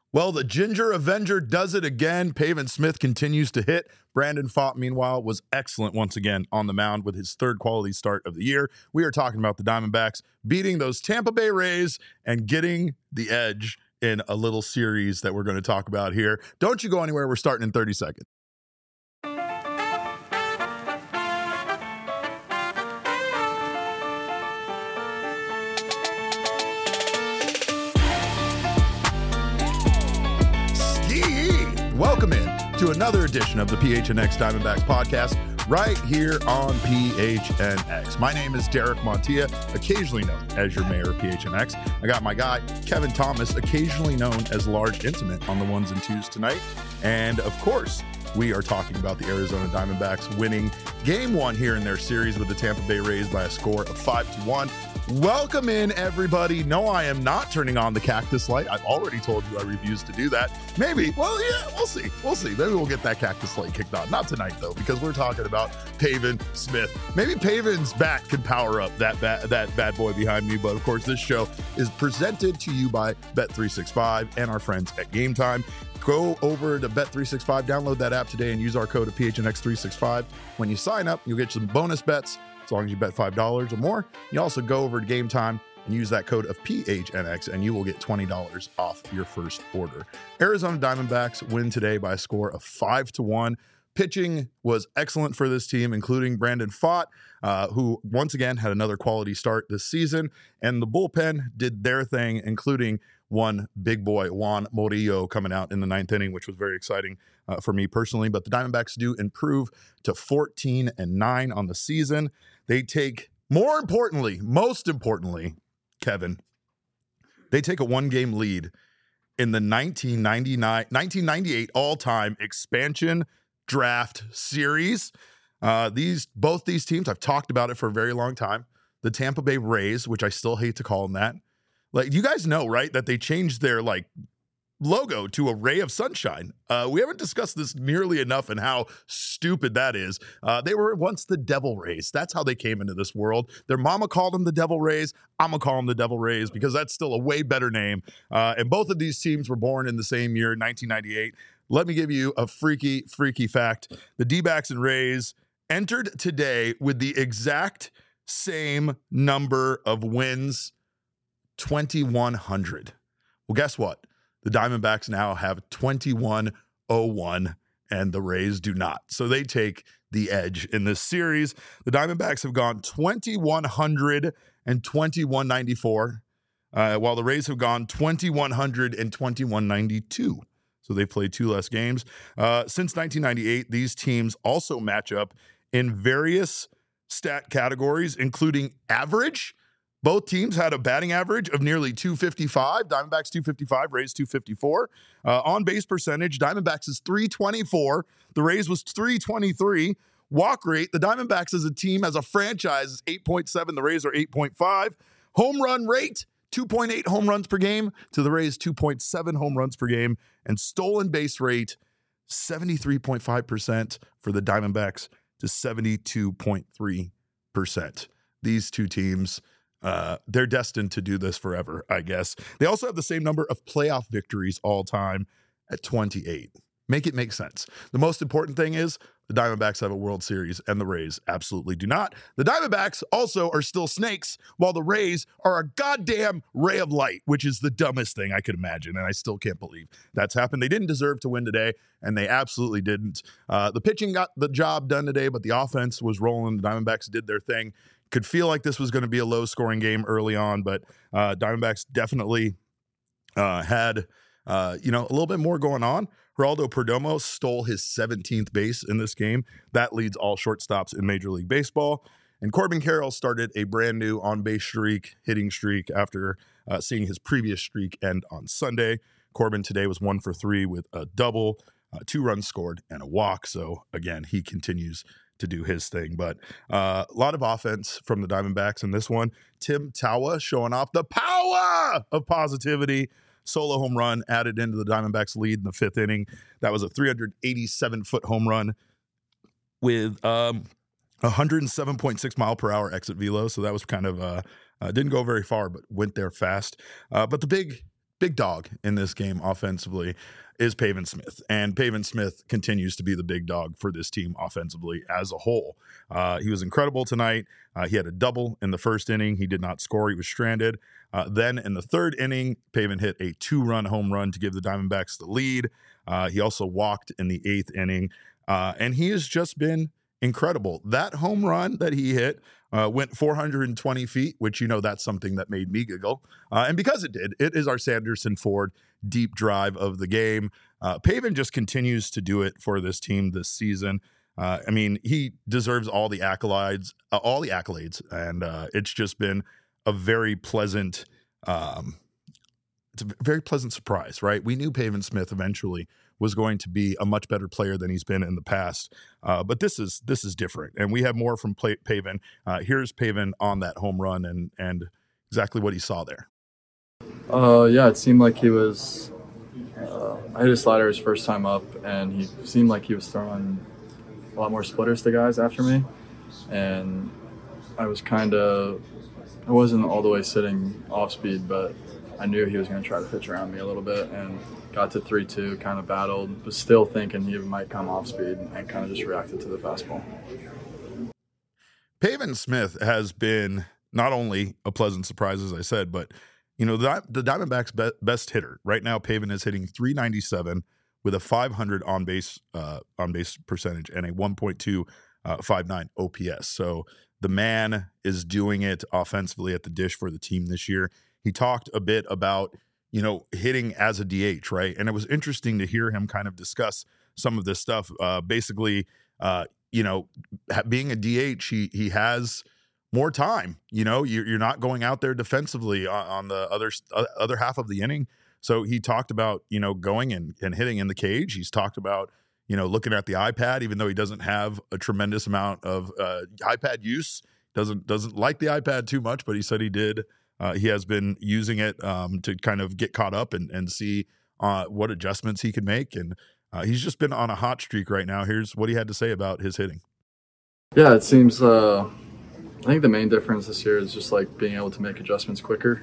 Well, the Ginger Avenger does it again. Pavin Smith continues to hit. Brandon Pfaadt, meanwhile, was excellent once again on the mound with his third quality start of the year. We are talking about the Diamondbacks beating those Tampa Bay Rays and getting the edge in a little series that we're going to talk about here. Don't you go anywhere. We're starting in 30 seconds. Welcome in to another edition of the PHNX Diamondbacks podcast right here on PHNX. My name is Derek Montilla, occasionally known as your mayor of PHNX. I got my guy, Kevin Thomas, occasionally known as Large Intimate on the ones and twos tonight. And of course, we are talking about the Arizona Diamondbacks winning game one here in their series with the Tampa Bay Rays by a score of 5-1. Welcome in, everybody. No, I am not turning on the cactus light. I've already told you I refuse to do that. Maybe, well, yeah, we'll see. We'll see. Maybe we'll get that cactus light kicked on. Not tonight, though, because we're talking about Pavin Smith. Maybe Pavin's bat can power up that bad boy behind me. But, of course, this show is presented to you by Bet365 and our friends at Game Time. Go over to Bet365, download that app today, and use our code of PHNX365. When you sign up, you'll get some bonus bets as long as you bet $5 or more. You also go over to Game Time and use that code of PHNX, and you will get $20 off your first order. Arizona Diamondbacks win today by a score of 5-1. Pitching was excellent for this team, including Brandon Pfaadt, who once again had another quality start this season. And the bullpen did their thing, including one big boy, Juan Murillo, coming out in the ninth inning, which was very exciting for me personally. But the Diamondbacks do improve to 14-9 on the season. They take, most importantly, Kevin, they take a one-game lead in the 1998 all-time expansion draft series. Both these teams, I've talked about it for a very long time. The Tampa Bay Rays, which I still hate to call them that. Like, you guys know, right, that they changed their logo to a ray of sunshine. We haven't discussed this nearly enough and how stupid that is. They were once the Devil Rays. That's how they came into this world. Their mama called them the Devil Rays. I'm going to call them the Devil Rays because that's still a way better name. And both of these teams were born in the same year, 1998. Let me give you a freaky fact. The D-backs and Rays entered today with the exact same number of wins, 2,100. Well, guess what? The Diamondbacks now have 2,101, and the Rays do not. So they take the edge in this series. The Diamondbacks have gone 2,100 and 2,194, while the Rays have gone 2,100 and 2,192. So they played two less games. Since 1998, these teams also match up in various stat categories, including average. Both teams had a batting average of nearly 255. Diamondbacks 255, Rays 254. On base percentage, Diamondbacks is 324. The Rays was 323. Walk rate, the Diamondbacks as a team, as a franchise, is 8.7. The Rays are 8.5. Home run rate, 2.8 home runs per game to the Rays, 2.7 home runs per game. And stolen base rate, 73.5% for the Diamondbacks to 72.3%. These two teams, they're destined to do this forever, I guess. They also have the same number of playoff victories all time at 28. Make it make sense. The most important thing is the Diamondbacks have a World Series and the Rays absolutely do not. The Diamondbacks also are still snakes, while the Rays are a goddamn ray of light, which is the dumbest thing I could imagine, and I still can't believe that's happened. They didn't deserve to win today, and they absolutely didn't. The pitching got the job done today, but the offense was rolling. The Diamondbacks did their thing. Could feel like this was going to be a low-scoring game early on, but Diamondbacks definitely had a little bit more going on. Geraldo Perdomo stole his 17th base in this game. That leads all shortstops in Major League Baseball. And Corbin Carroll started a brand new on-base streak, hitting streak, after seeing his previous streak end on Sunday. Corbin today was 1 for 3 with a double, 2 runs scored, and a walk. So, again, he continues to do his thing. But a lot of offense from the Diamondbacks in this one. Tim Tawa showing off the power of positivity. Solo home run added into the Diamondbacks lead in the 5th inning. That was a 387-foot home run with 107.6 mile per hour exit velo. So that was kind of didn't go very far, but went there fast. But the big big dog in this game offensively is Pavin Smith. And Pavin Smith continues to be the big dog for this team offensively as a whole. He was incredible tonight. He had a double in the first inning. He did not score. He was stranded. Then in the third inning, Pavin hit a 2-run home run to give the Diamondbacks the lead. He also walked in the 8th inning. And he has just been incredible. That home run that he hit went 420 feet, which, that's something that made me giggle. And because it did, it is our Sanderson Ford deep drive of the game. Pavin just continues to do it for this team this season. He deserves all the accolades, and it's just been a very pleasant, it's a very pleasant surprise, right? We knew Pavin Smith eventually was going to be a much better player than he's been in the past, but this is different, and we have more from Pavin. Here's Pavin on that home run and exactly what he saw there. Yeah, it seemed like he was. I hit a slider his first time up, and he seemed like he was throwing a lot more splitters to guys after me, and I wasn't all the way sitting off speed, but I knew he was going to try to pitch around me a little bit, and got to 3-2, kind of battled, but still thinking he might come off speed, and kind of just reacted to the fastball. Pavin Smith has been not only a pleasant surprise, as I said, but the Diamondbacks' best hitter right now. Pavin is hitting .397 with a .500 on base percentage and a 1.259 OPS. So the man is doing it offensively at the dish for the team this year. He talked a bit about hitting as a DH, right? And it was interesting to hear him kind of discuss some of this stuff. Basically, being a DH, he has more time. You're not going out there defensively on the other half of the inning. So he talked about, going and hitting in the cage. He's talked about, looking at the iPad, even though he doesn't have a tremendous amount of iPad use, doesn't like the iPad too much, but he said he did. He has been using it to kind of get caught up and see what adjustments he can make. And he's just been on a hot streak right now. Here's what he had to say about his hitting. Yeah, it seems I think the main difference this year is just like being able to make adjustments quicker.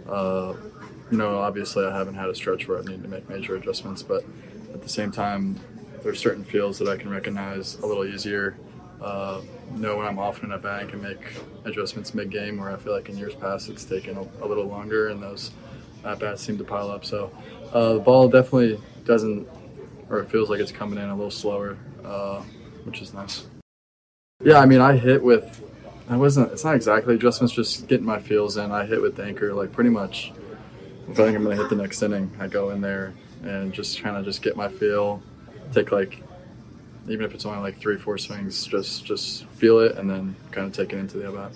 Obviously I haven't had a stretch where I need to make major adjustments, but at the same time, there's certain fields that I can recognize a little easier. Know when I'm off in a bat and can make adjustments mid-game, where I feel like in years past it's taken a little longer and those at-bats seem to pile up. So the ball definitely doesn't, or it feels like it's coming in a little slower, which is nice. Yeah, I hit with, it's not exactly adjustments, just getting my feels in. I hit with the anchor, like pretty much if I think I'm going to hit the next inning, I go in there and just kind of just get my feel, take even if it's only like 3-4 swings, just feel it and then kind of take it into the at-bat.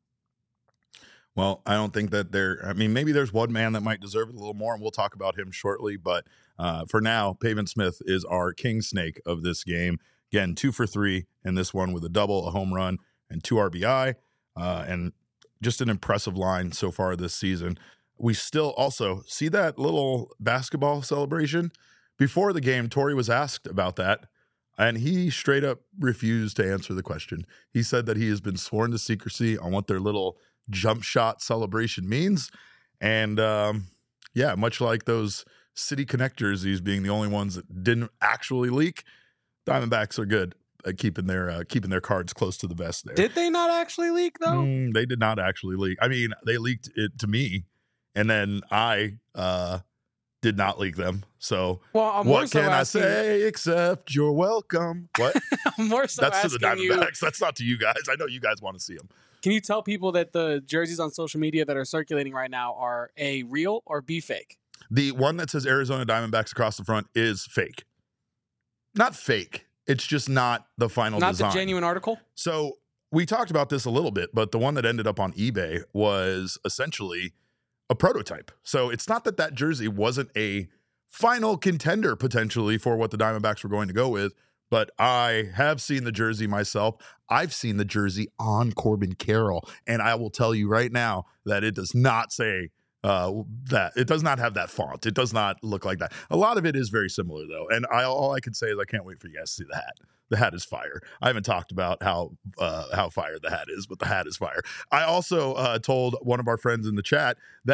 Well, I don't think that maybe there's one man that might deserve it a little more, and we'll talk about him shortly. But for now, Pavin Smith is our king snake of this game. Again, 2 for 3 in this one with a double, a home run, and 2 RBI. And just an impressive line so far this season. We still also see that little basketball celebration. Before the game, Torey was asked about that, and he straight up refused to answer the question. He said that he has been sworn to secrecy on what their little jump shot celebration means. And much like those City connectors, these being the only ones that didn't actually leak, Diamondbacks are good at keeping their cards close to the vest there. Did they not actually leak, though? They did not actually leak. They leaked it to me, and then I did not leak them. So what can I say except you're welcome? What? I'm more so That's to the asking Diamondbacks. That's not to you guys. I know you guys want to see them. Can you tell people that the jerseys on social media that are circulating right now are A, real or B, fake? The one that says Arizona Diamondbacks across the front is fake. Not fake. It's just not the final design. Not the genuine article? So we talked about this a little bit, but the one that ended up on eBay was essentially a prototype. So it's not that jersey wasn't a final contender potentially for what the Diamondbacks were going to go with, but I have seen the jersey myself. I've seen the jersey on Corbin Carroll, and I will tell you right now that it does not say that. It does not have that font. It does not look like that. A lot of it is very similar, though, and all I can say is I can't wait for you guys to see the hat. The hat is fire. I haven't talked about how fire the hat is, but the hat is fire. I also told one of our friends in the chat that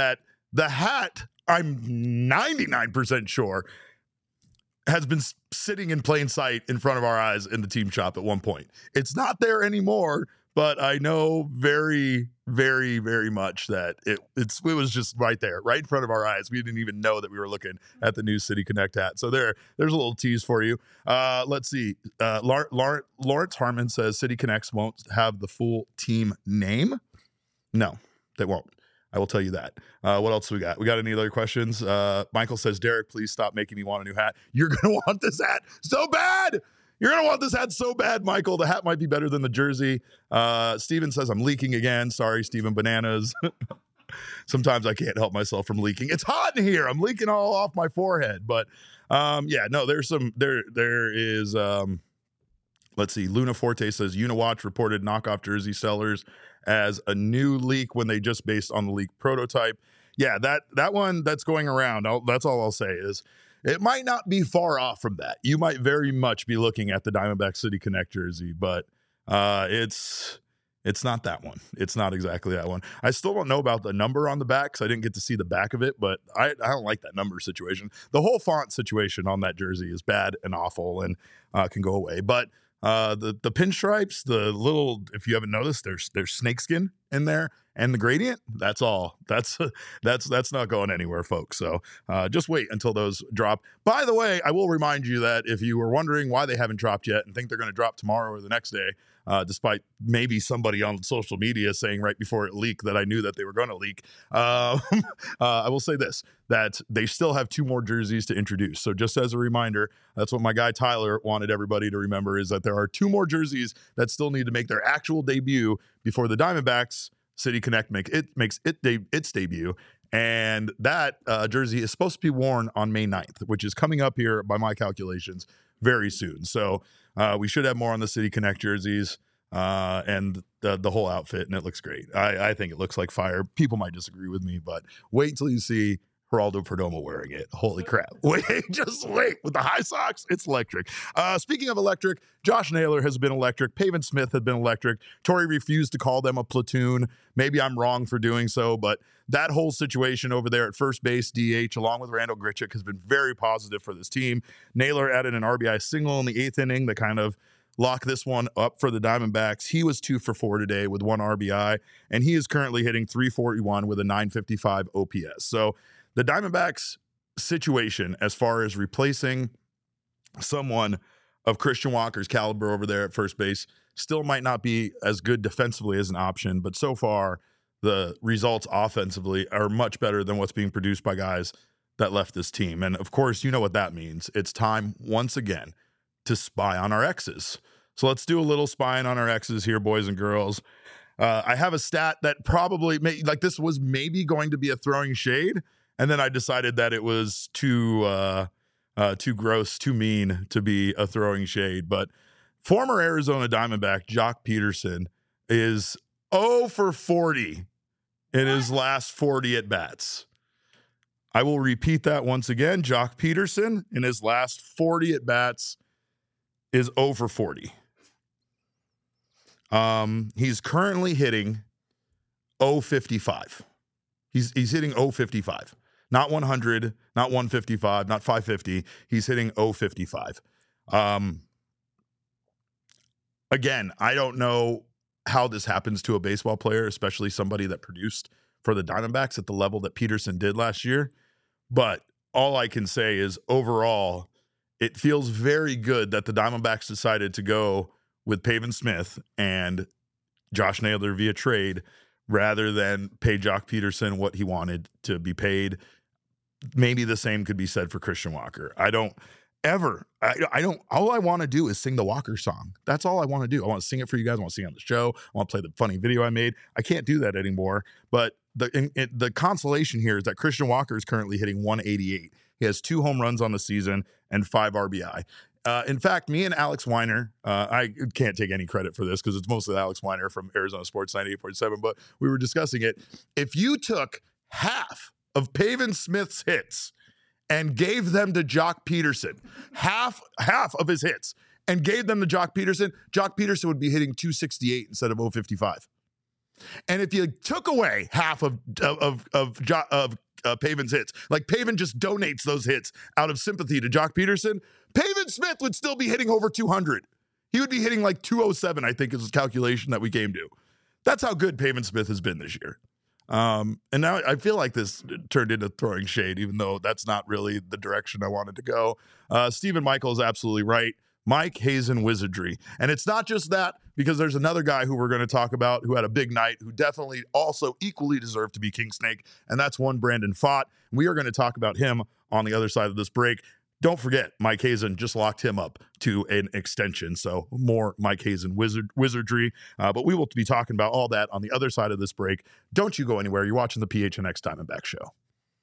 The hat, I'm 99% sure, has been sitting in plain sight in front of our eyes in the team shop at one point. It's not there anymore, but I know very, very, very much that it was just right there, right in front of our eyes. We didn't even know that we were looking at the new City Connect hat. So there's a little tease for you. Let's see. Lawrence Harmon says City Connects won't have the full team name. No, they won't. I will tell you that. What else we got? We got any other questions? Michael says, Derek, please stop making me want a new hat. You're going to want this hat so bad. You're going to want this hat so bad, Michael. The hat might be better than the jersey. Steven says, I'm leaking again. Sorry, Steven Bananas. Sometimes I can't help myself from leaking. It's hot in here. I'm leaking all off my forehead. But there is, let's see. Luna Forte says, Uniwatch reported knockoff jersey sellers as a new leak when they just based on the leak prototype. Yeah, that one that's going around, that's all I'll say is it might not be far off from that. You might very much be looking at the Diamondback City Connect jersey, but it's not that one. It's not exactly that one. I still don't know about the number on the back because I didn't get to see the back of it, but I don't like that number situation. The whole font situation on that jersey is bad and awful and can go away. But the pinstripes, the little, if you haven't noticed, there's snakeskin in there, and the gradient. That's all. That's not going anywhere, folks. So just wait until those drop. By the way, I will remind you that if you were wondering why they haven't dropped yet and think they're going to drop tomorrow or the next day, despite maybe somebody on social media saying right before it leaked that I knew that they were going to leak, I will say this, that they still have 2 more jerseys to introduce. So just as a reminder, that's what my guy Tyler wanted everybody to remember, is that there are 2 more jerseys that still need to make their actual debut before the Diamondbacks City Connect makes its debut. And that jersey is supposed to be worn on May 9th, which is coming up here by my calculations very soon. So we should have more on the City Connect jerseys and the whole outfit, and it looks great. I think it looks like fire. People might disagree with me, but wait till you see Geraldo Perdomo wearing it. Holy crap. Just wait. With the high socks, it's electric. Speaking of electric, Josh Naylor has been electric. Pavin Smith has been electric. Torrey refused to call them a platoon. Maybe I'm wrong for doing so, but that whole situation over there at first base, DH, along with Randall Grichuk, has been very positive for this team. Naylor added an RBI single in the 8th inning that kind of locked this one up for the Diamondbacks. He was 2 for 4 today with 1 RBI, and he is currently hitting .341 with a .955 OPS. So the Diamondbacks situation as far as replacing someone of Christian Walker's caliber over there at first base still might not be as good defensively as an option, but so far the results offensively are much better than what's being produced by guys that left this team. And of course, you know what that means. It's time once again to spy on our exes. So let's do a little spying on our exes here, boys and girls. I have a stat that probably this was maybe going to be a throwing shade, and then I decided that it was too gross, too mean to be a throwing shade. But former Arizona Diamondback Joc Pederson is 0 for 40 in his last 40 at-bats. I will repeat that once again. Joc Pederson in his last 40 at-bats is 0 for 40. He's currently hitting 0.55. He's hitting 0.55. Not 100, not 155, not 550. He's hitting 0.55. Again, I don't know how this happens to a baseball player, especially somebody that produced for the Diamondbacks at the level that Pederson did last year. But all I can say is overall, it feels very good that the Diamondbacks decided to go with Pavin Smith and Josh Naylor via trade rather than pay Joc Pederson what he wanted to be paid. Maybe the same could be said for Christian Walker. All I want to do is sing the Walker song. That's all I want to do. I want to sing it for you guys. I want to sing it on the show. I want to play the funny video I made. I can't do that anymore. But the consolation here is that Christian Walker is currently hitting 188. He has 2 home runs on the season and 5 RBI. In fact, me and Alex Weiner, I can't take any credit for this because it's mostly Alex Weiner from Arizona Sports 98.7, but we were discussing it. If you took half of Pavin Smith's hits and gave them to Joc Pederson, half of his hits, and gave them to Joc Pederson would be hitting 268 instead of 055. And if you took away half of Pavin's hits. Like, Pavin just donates those hits out of sympathy to Jock Peterson. Pavin Smith would still be hitting over 200. He would be hitting like 207, I think is the calculation that we came to. That's how good Pavin Smith has been this year. And now I feel like this turned into throwing shade, even though that's not really the direction I wanted to go. Stephen Michael is absolutely right. Mike Hazen Wizardry. And it's not just that, because there's another guy who we're going to talk about who had a big night, who definitely also equally deserved to be King Snake, and that's one Brandon Pfaadt. We are going to talk about him on the other side of this break. Don't forget, Mike Hazen just locked him up to an extension, so more Mike Hazen wizardry. But we will be talking about all that on the other side of this break. Don't you go anywhere. You're watching the PHNX Diamondback Show.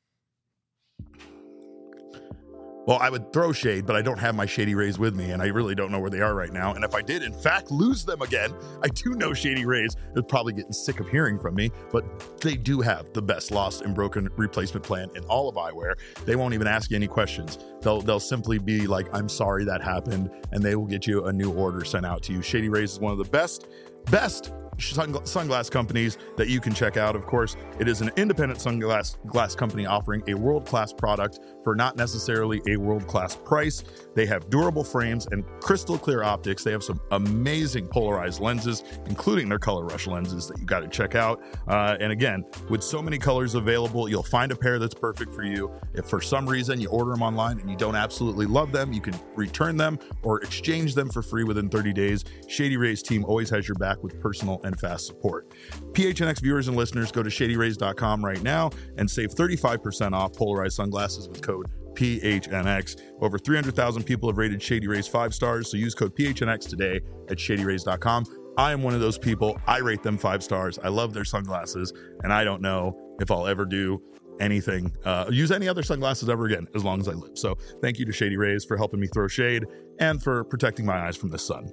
Well, I would throw shade, but I don't have my Shady Rays with me, and I really don't know where they are right now. And if I did, in fact, lose them again, I do know Shady Rays is probably getting sick of hearing from me, but they do have the best lost and broken replacement plan in all of eyewear. They won't even ask you any questions. They'll simply be like, I'm sorry that happened, and they will get you a new order sent out to you. Shady Rays is one of the best sunglass companies that you can check out. Of course, it is an independent sunglass company offering a world-class product for not necessarily a world-class price. They have durable frames and crystal clear optics. They have some amazing polarized lenses, including their Color Rush lenses that you got to check out. And again, with so many colors available, you'll find a pair that's perfect for you. If for some reason you order them online and you don't absolutely love them, you can return them or exchange them for free within 30 days. Shady Rays team always has your back with personal and fast support. PHNX viewers and listeners, go to shadyrays.com right now and save 35% off polarized sunglasses with code PHNX. Over 300,000 people have rated Shady Rays 5 stars, so use code PHNX today at shadyrays.com. I am one of those people. I rate them 5 stars. I love their sunglasses, and I don't know if I'll ever do anything, use any other sunglasses ever again as long as I live. So thank you to Shady Rays for helping me throw shade and for protecting my eyes from the sun.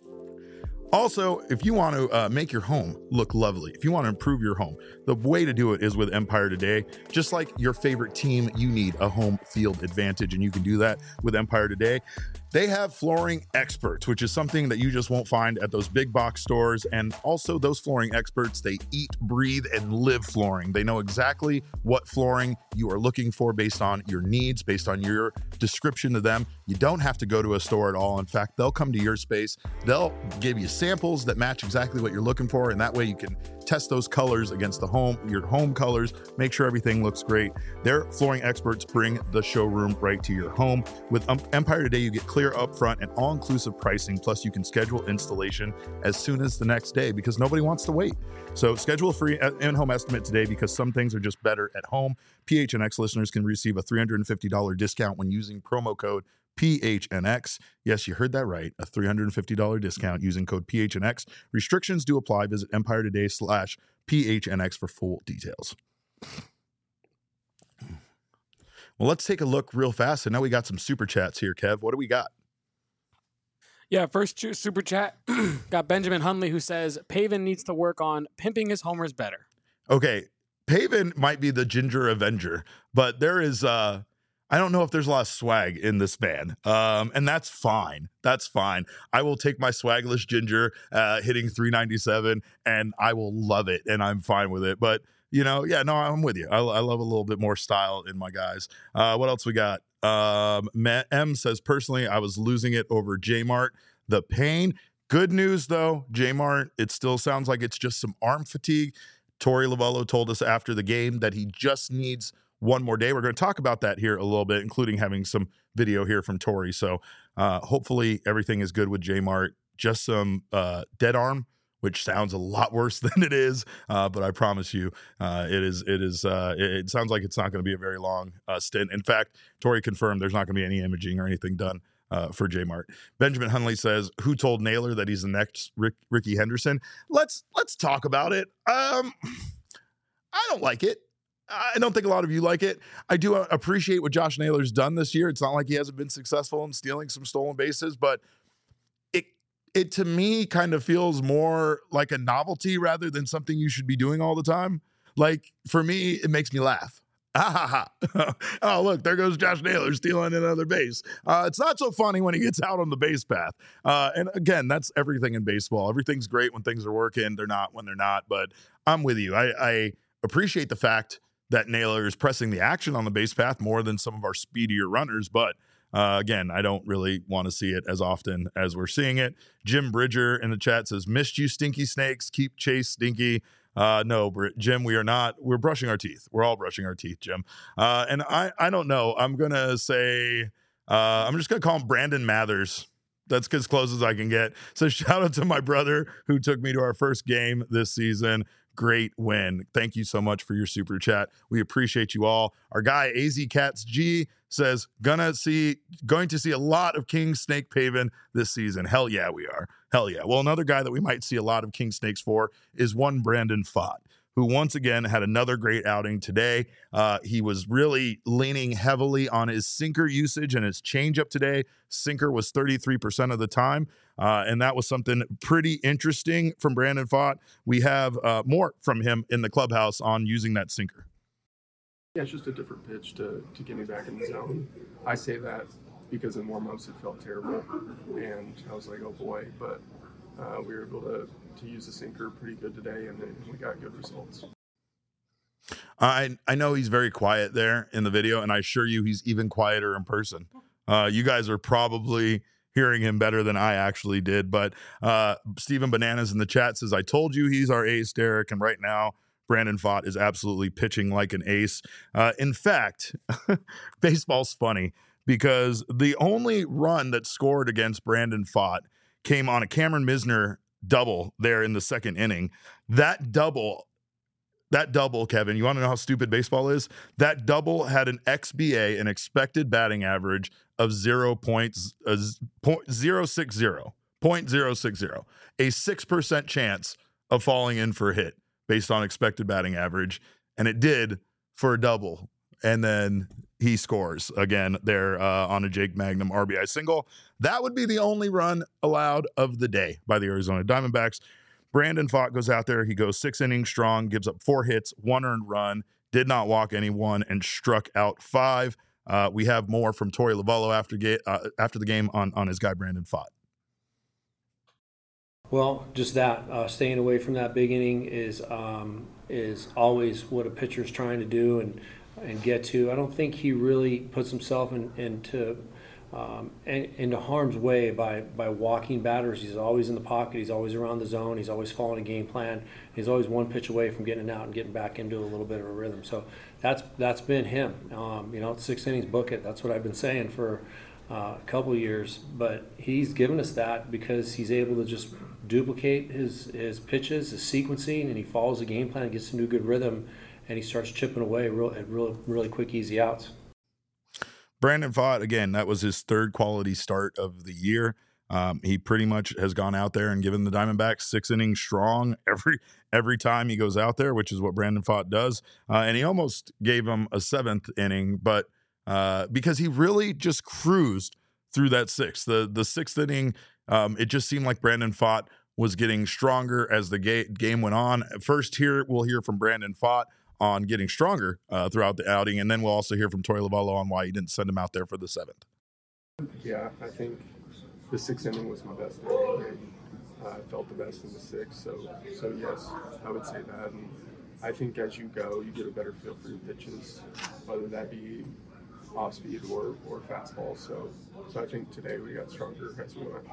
Also, if you want to make your home look lovely, if you want to improve your home, the way to do it is with Empire Today. Just like your favorite team, you need a home field advantage, and you can do that with Empire Today. They have flooring experts, which is something that you just won't find at those big box stores. And also those flooring experts, they eat, breathe, and live flooring. They know exactly what flooring you are looking for based on your needs, based on your description to them. You don't have to go to a store at all. In fact, they'll come to your space. They'll give you samples that match exactly what you're looking for. And that way you can test those colors against your home colors, make sure everything looks great. Their flooring experts bring the showroom right to your home. With Empire Today, you get clear upfront and all-inclusive pricing, plus you can schedule installation as soon as the next day because nobody wants to wait. So schedule a free in-home estimate today because some things are just better at home. PHNX listeners can receive a $350 discount when using promo code PHNX. Yes, you heard that right. A $350 discount using code PHNX. Restrictions do apply. Visit EmpireToday/PHNX for full details. Well, let's take a look real fast. And now we got some super chats here, Kev. What do we got? Yeah, first super chat. Got Benjamin Hunley who says, Pavin needs to work on pimping his homers better. Okay, Pavin might be the Ginger Avenger, but there is... I don't know if there's a lot of swag in this band, and that's fine. That's fine. I will take my swagless Ginger hitting 397, and I will love it, and I'm fine with it. But, I'm with you. I love a little bit more style in my guys. What else we got? M says, personally, I was losing it over J-Mart. The pain. Good news, though, J-Mart, it still sounds like it's just some arm fatigue. Torey Lovullo told us after the game that he just needs one more day. We're going to talk about that here a little bit, including having some video here from Torey. So hopefully everything is good with J-Mart. Just some dead arm, which sounds a lot worse than it is. But I promise you, it sounds like it's not going to be a very long stint. In fact, Torey confirmed there's not going to be any imaging or anything done for J-Mart. Benjamin Hunley says, who told Naylor that he's the next Ricky Henderson? Let's talk about it. I don't like it. I don't think a lot of you like it. I do appreciate what Josh Naylor's done this year. It's not like he hasn't been successful in stealing some stolen bases, but it to me kind of feels more like a novelty rather than something you should be doing all the time. Like, for me, it makes me laugh. Oh, look, there goes Josh Naylor stealing another base. It's not so funny when he gets out on the base path. And again, that's everything in baseball. Everything's great when things are working. They're not when they're not. But I'm with you. I appreciate the fact that Naylor is pressing the action on the base path more than some of our speedier runners. But again, I don't really want to see it as often as we're seeing it. Jim Bridger in the chat says, missed you, Stinky Snakes. Keep Chase Stinky. No, Jim, we are not. We're brushing our teeth. We're all brushing our teeth, Jim. And I don't know. I'm going to say, I'm just going to call him Brandon Mathers. That's as close as I can get. So shout out to my brother who took me to our first game this season. Great win. Thank you so much for your super chat. We appreciate you all. Our guy AZ Cats G says, going to see a lot of King Snake Paven this season. Hell yeah, we are. Hell yeah. Well, another guy that we might see a lot of King Snakes for is one Brandon Pfaadt, who once again had another great outing today. He was really leaning heavily on his sinker usage and his changeup today. Sinker was 33% of the time, and that was something pretty interesting from Brandon Pfaadt. We have more from him in the clubhouse on using that sinker. Yeah, it's just a different pitch to get me back in the zone. I say that because in warm-ups it felt terrible, and I was like, oh boy, but we were able to use the sinker pretty good today, and then we got good results. I know he's very quiet there in the video, and I assure you he's even quieter in person. You guys are probably hearing him better than I actually did, but Steven Bananas in the chat says, I told you he's our ace, Derek, and right now Brandon Pfaadt is absolutely pitching like an ace. In fact, baseball's funny because the only run that scored against Brandon Pfaadt came on a Cameron Misner double there in the second inning. That double, Kevin, you want to know how stupid baseball is? That double had an XBA, an expected batting average of 0.060, a 6% chance of falling in for a hit based on expected batting average. And it did for a double. And then he scores again there on a Jake Magnum RBI single. That would be the only run allowed of the day by the Arizona Diamondbacks. Brandon Pfaadt goes out there. He goes 6 innings strong, gives up 4 hits, 1 earned run, did not walk anyone, and struck out 5. We have more from Torey Lovullo after the game on his guy Brandon Pfaadt. Well, just that staying away from that big inning is always what a pitcher's trying to do and get to. I don't think he really puts himself into harm's way by walking batters. He's always in the pocket. He's always around the zone. He's always following a game plan. He's always one pitch away from getting it out and getting back into a little bit of a rhythm. So that's been him. 6 innings, book it. That's what I've been saying for a couple of years. But he's given us that because he's able to just duplicate his pitches, his sequencing, and he follows the game plan, gets into a good rhythm, and he starts chipping away at really quick, easy outs. Brandon Pfaadt, again, that was his 3rd quality start of the year. He pretty much has gone out there and given the Diamondbacks 6 innings strong every time he goes out there, which is what Brandon Pfaadt does. And he almost gave him a 7th inning, but because he really just cruised through that 6th. The 6th inning, it just seemed like Brandon Pfaadt was getting stronger as the game went on. First, we'll hear from Brandon Pfaadt on getting stronger throughout the outing, and then we'll also hear from Torey Lovullo on why he didn't send him out there for the 7th. Yeah, I think the 6th inning was my best inning. I felt the best in the 6th, so yes, I would say that. And I think as you go, you get a better feel for your pitches, whether that be off speed or fastball. So I think today we got stronger as we went.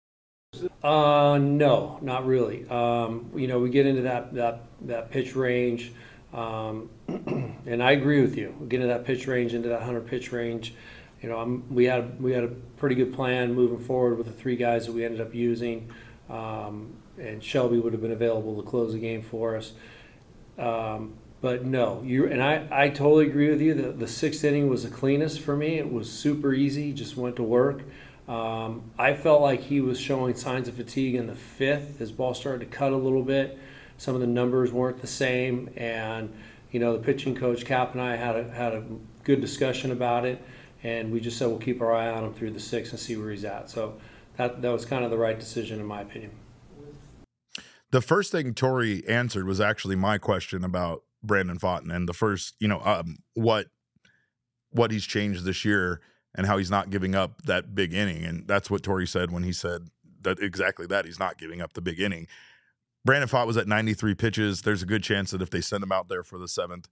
No, not really. We get into that pitch range. And I agree with you. We get into that pitch range, into that 100 pitch range. We had a pretty good plan moving forward with the 3 guys that we ended up using, and Shelby would have been available to close the game for us. But no, I totally agree with you. The 6th inning was the cleanest for me. It was super easy, just went to work. I felt like he was showing signs of fatigue in the 5th. His ball started to cut a little bit. Some of the numbers weren't the same, and the pitching coach Cap and I had a good discussion about it, and we just said we'll keep our eye on him through the 6th and see where he's at. So that was kind of the right decision in my opinion. The first thing Torey answered was actually my question about Brandon Pfaadt and the first, what he's changed this year and how he's not giving up that big inning, and that's what Torey said when he said that exactly that he's not giving up the big inning. Brandon Pfaadt was at 93 pitches. There's a good chance that if they send him out there for the 7th,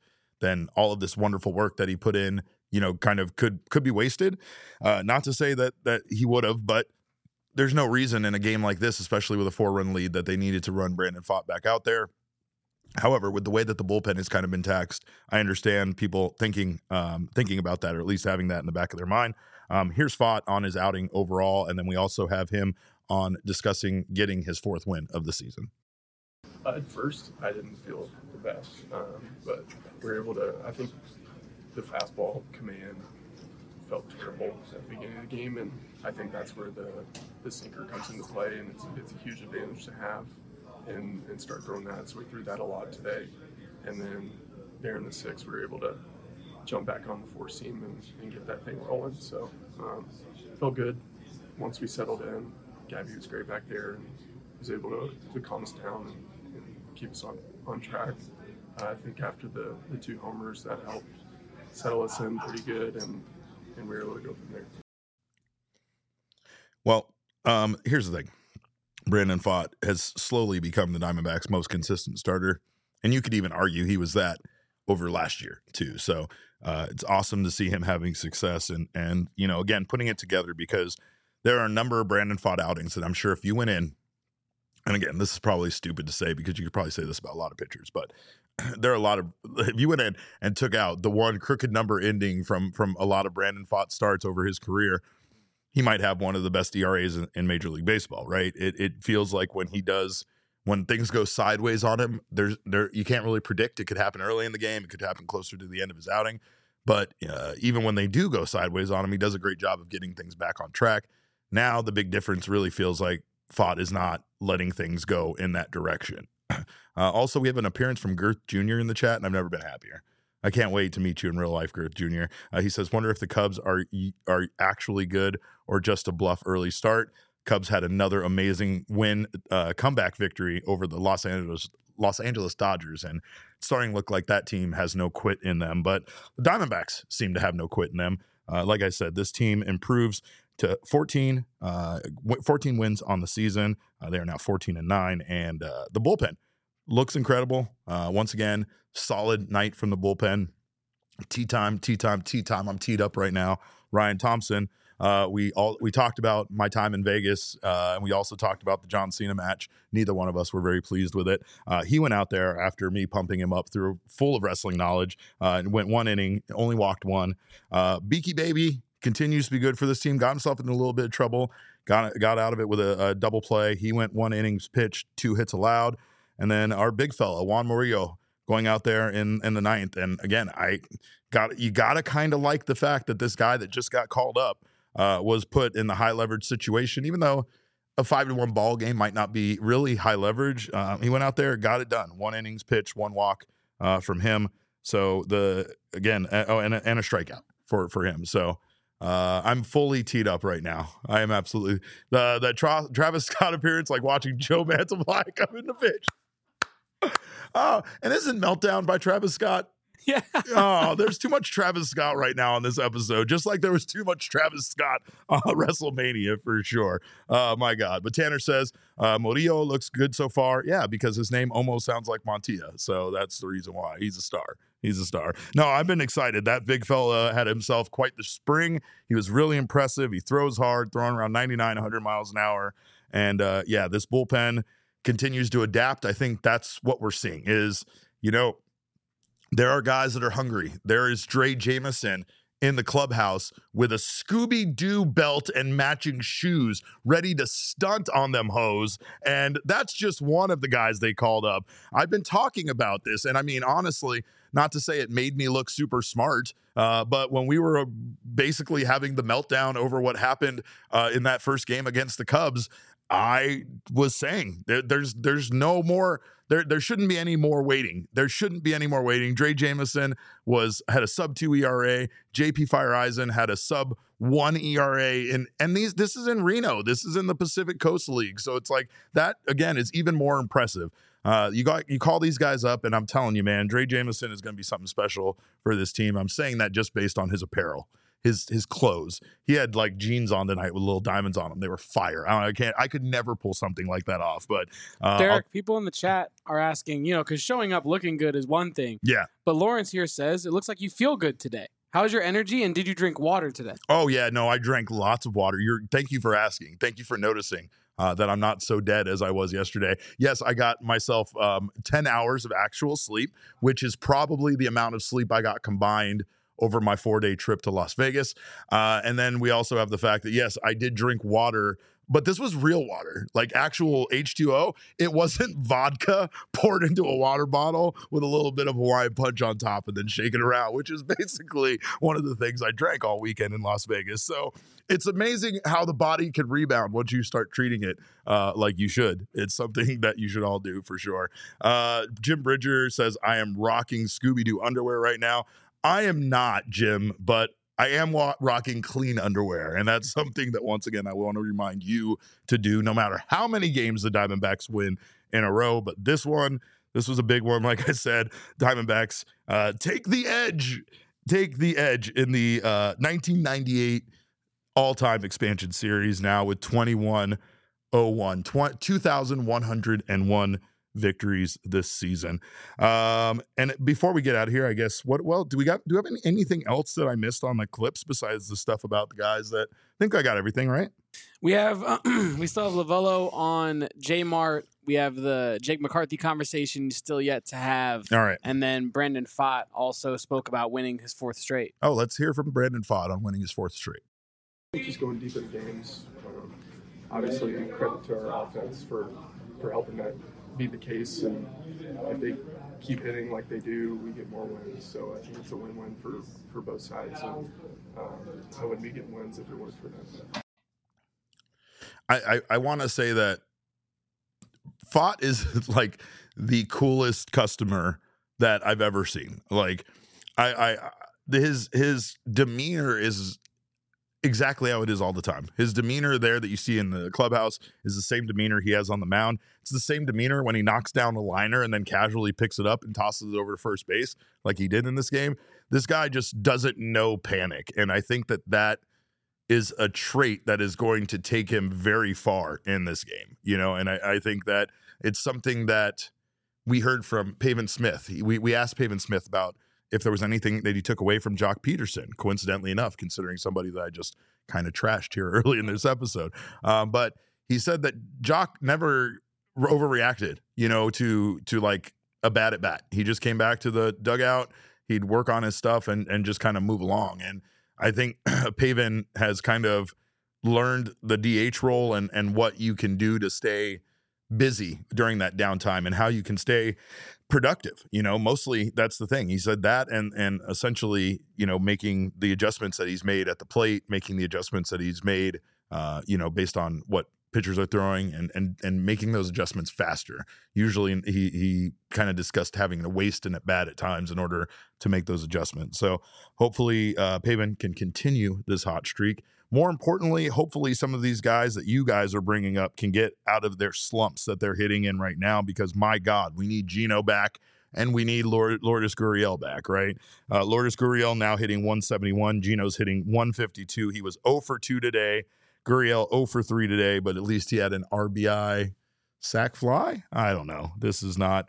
then all of this wonderful work that he put in, kind of could be wasted. Not to say that he would have, but there's no reason in a game like this, especially with a 4-run lead, that they needed to run Brandon Pfaadt back out there. However, with the way that the bullpen has kind of been taxed, I understand people thinking about that, or at least having that in the back of their mind. Here's Pfaadt on his outing overall, and then we also have him on discussing getting his 4th win of the season. At first, I didn't feel the best, but we were able to. I think the fastball command felt terrible at the beginning of the game, and I think that's where the sinker comes into play, and it's a huge advantage to have and start throwing that. So we threw that a lot today, and then there in the 6th, we were able to jump back on the 4-seam and get that thing rolling. So felt good once we settled in. Gabby was great back there and was able to calm us down and keep us on track. I think after the 2 homers, that helped settle us in pretty good, and we were able to go from there. Well, here's the thing. Brandon Pfaadt has slowly become the Diamondbacks' most consistent starter, and you could even argue he was that over last year too. So it's awesome to see him having success and again, putting it together, because there are a number of Brandon Pfaadt outings that I'm sure if you went in, and again, this is probably stupid to say because you could probably say this about a lot of pitchers, but there are a lot of, if you went in and took out the one crooked number ending from a lot of Brandon Pfaadt starts over his career, he might have one of the best ERAs in Major League Baseball, right? It feels like when things go sideways on him, you can't really predict. It could happen early in the game. It could happen closer to the end of his outing. But even when they do go sideways on him, he does a great job of getting things back on track. Now the big difference really feels like Pfaadt is not letting things go in that direction. Also, we have an appearance from Girth Jr. in the chat, and I've never been happier. I can't wait to meet you in real life, Girth Jr. He says, wonder if the Cubs are actually good or just a bluff early start. Cubs had another amazing comeback victory over the Los Angeles Dodgers, and it's starting to look like that team has no quit in them. But the Diamondbacks seem to have no quit in them. Like I said, this team improves to 14 wins on the season. They are now 14-9, and the bullpen looks incredible. Once again, solid night from the bullpen. Tea time. I'm teed up right now. Ryan Thompson. We talked about my time in Vegas, and we also talked about the John Cena match. Neither one of us were very pleased with it. He went out there after me pumping him up through full of wrestling knowledge, and went 1 inning, only walked 1. Beaky Baby continues to be good for this team. Got himself in a little bit of trouble. Got out of it with a double play. He went 1 innings pitched, 2 hits allowed. And then our big fella, Juan Murillo, going out there in the 9th. And again, you got to kind of like the fact that this guy that just got called up was put in the high leverage situation, even though a 5-1 ball game might not be really high leverage. He went out there, got it done. 1 innings pitched, 1 walk from him. So and a strikeout for him. So I'm fully teed up right now. I am absolutely the Travis Scott appearance, like watching Joe Mantiply come in the pitch. Oh, and isn't Meltdown by Travis Scott? Yeah. Oh, there's too much Travis Scott right now on this episode, just like there was too much Travis Scott on WrestleMania for sure. My God. But Tanner says, Murillo looks good so far. Yeah, because his name almost sounds like Montilla. So that's the reason why. He's a star. No, I've been excited. That big fella had himself quite the spring. He was really impressive. He throws hard, throwing around 99, 100 miles an hour. And this bullpen continues to adapt. I think that's what we're seeing is, there are guys that are hungry. There is Dre Jameson in the clubhouse with a Scooby-Doo belt and matching shoes ready to stunt on them hoes. And that's just one of the guys they called up. I've been talking about this. And I mean, honestly, not to say it made me look super smart, but when we were basically having the meltdown over what happened in that first game against the Cubs, I was saying there's no more. There shouldn't be any more waiting. There shouldn't be any more waiting. Dre Jameson had a sub-2 ERA. JP Fireeisen had a sub-1 ERA. And this is in Reno. This is in the Pacific Coast League. So it's like that, again, is even more impressive. You call these guys up, and I'm telling you, man, Dre Jameson is going to be something special for this team. I'm saying that just based on his apparel. his clothes. He had like jeans on tonight with little diamonds on them. They were fire. I could never pull something like that off. But Derek, people in the chat are asking, because showing up looking good is one thing. Yeah. But Lawrence here says it looks like you feel good today. How's your energy, and did you drink water today? Oh yeah, no, I drank lots of water. Thank you for asking. Thank you for noticing that I'm not so dead as I was yesterday. Yes, I got myself 10 hours of actual sleep, which is probably the amount of sleep I got combined over my 4-day trip to Las Vegas. And then we also have the fact that, yes, I did drink water, but this was real water, like actual H2O. It wasn't vodka poured into a water bottle with a little bit of Hawaiian Punch on top and then shaken around, which is basically one of the things I drank all weekend in Las Vegas. So it's amazing how the body can rebound once you start treating it like you should. It's something that you should all do for sure. Jim Bridger says, I am rocking Scooby-Doo underwear right now. I am not, Jim, but I am rocking clean underwear, and that's something that, once again, I want to remind you to do no matter how many games the Diamondbacks win in a row. But this was a big one. Like I said, Diamondbacks take the edge in the 1998 all-time expansion series now with 2,101 victories this season. And before we get out of here, I guess, do we have anything else that I missed on the clips besides the stuff about the guys? That I think I got everything right. We have we still have Lovello on J-Mart. We have the Jake McCarthy conversation still yet to have. All right. And then Brandon Pfaadt also spoke about winning his 4th straight. Oh, let's hear from Brandon Pfaadt on winning his 4th straight. Just going deep in games. Obviously, credit to our offense for helping that be the case, and if they keep hitting like they do, we get more wins. So I think it's a win-win for both sides, and I wouldn't be getting wins if it weren't for them. I want to say that Pfaadt is like the coolest customer that I've ever seen. Like his demeanor is exactly how it is all the time. His demeanor there that you see in the clubhouse is the same demeanor he has on the mound. It's the same demeanor when he knocks down a liner and then casually picks it up and tosses it over to first base like he did in this game. This guy just doesn't know panic. And I think that is a trait that is going to take him very far in this game, and I think that it's something that we heard from Pavin Smith. We asked Pavin Smith about if there was anything that he took away from Jock Peterson, coincidentally enough, considering somebody that I just kind of trashed here early in this episode. But he said that Jock never overreacted, to like a bat at bat. He just came back to the dugout. He'd work on his stuff and just kind of move along. And I think Pavin has kind of learned the DH role and what you can do to stay busy during that downtime and how you can stay productive. Mostly that's the thing. He said that and essentially, making the adjustments that he's made at the plate, making the adjustments that he's made, based on what pitchers are throwing and making those adjustments faster. Usually he kind of discussed having to waste an at bat at times in order to make those adjustments. So hopefully Pavin can continue this hot streak. More importantly, hopefully some of these guys that you guys are bringing up can get out of their slumps that they're hitting in right now, because my God, we need Gino back and we need Lourdes Gurriel back, right? Lourdes Gurriel now hitting 171. Gino's hitting 152. He was 0 for 2 today. Gurriel 0 for 3 today, but at least he had an RBI sac fly. I don't know. This is not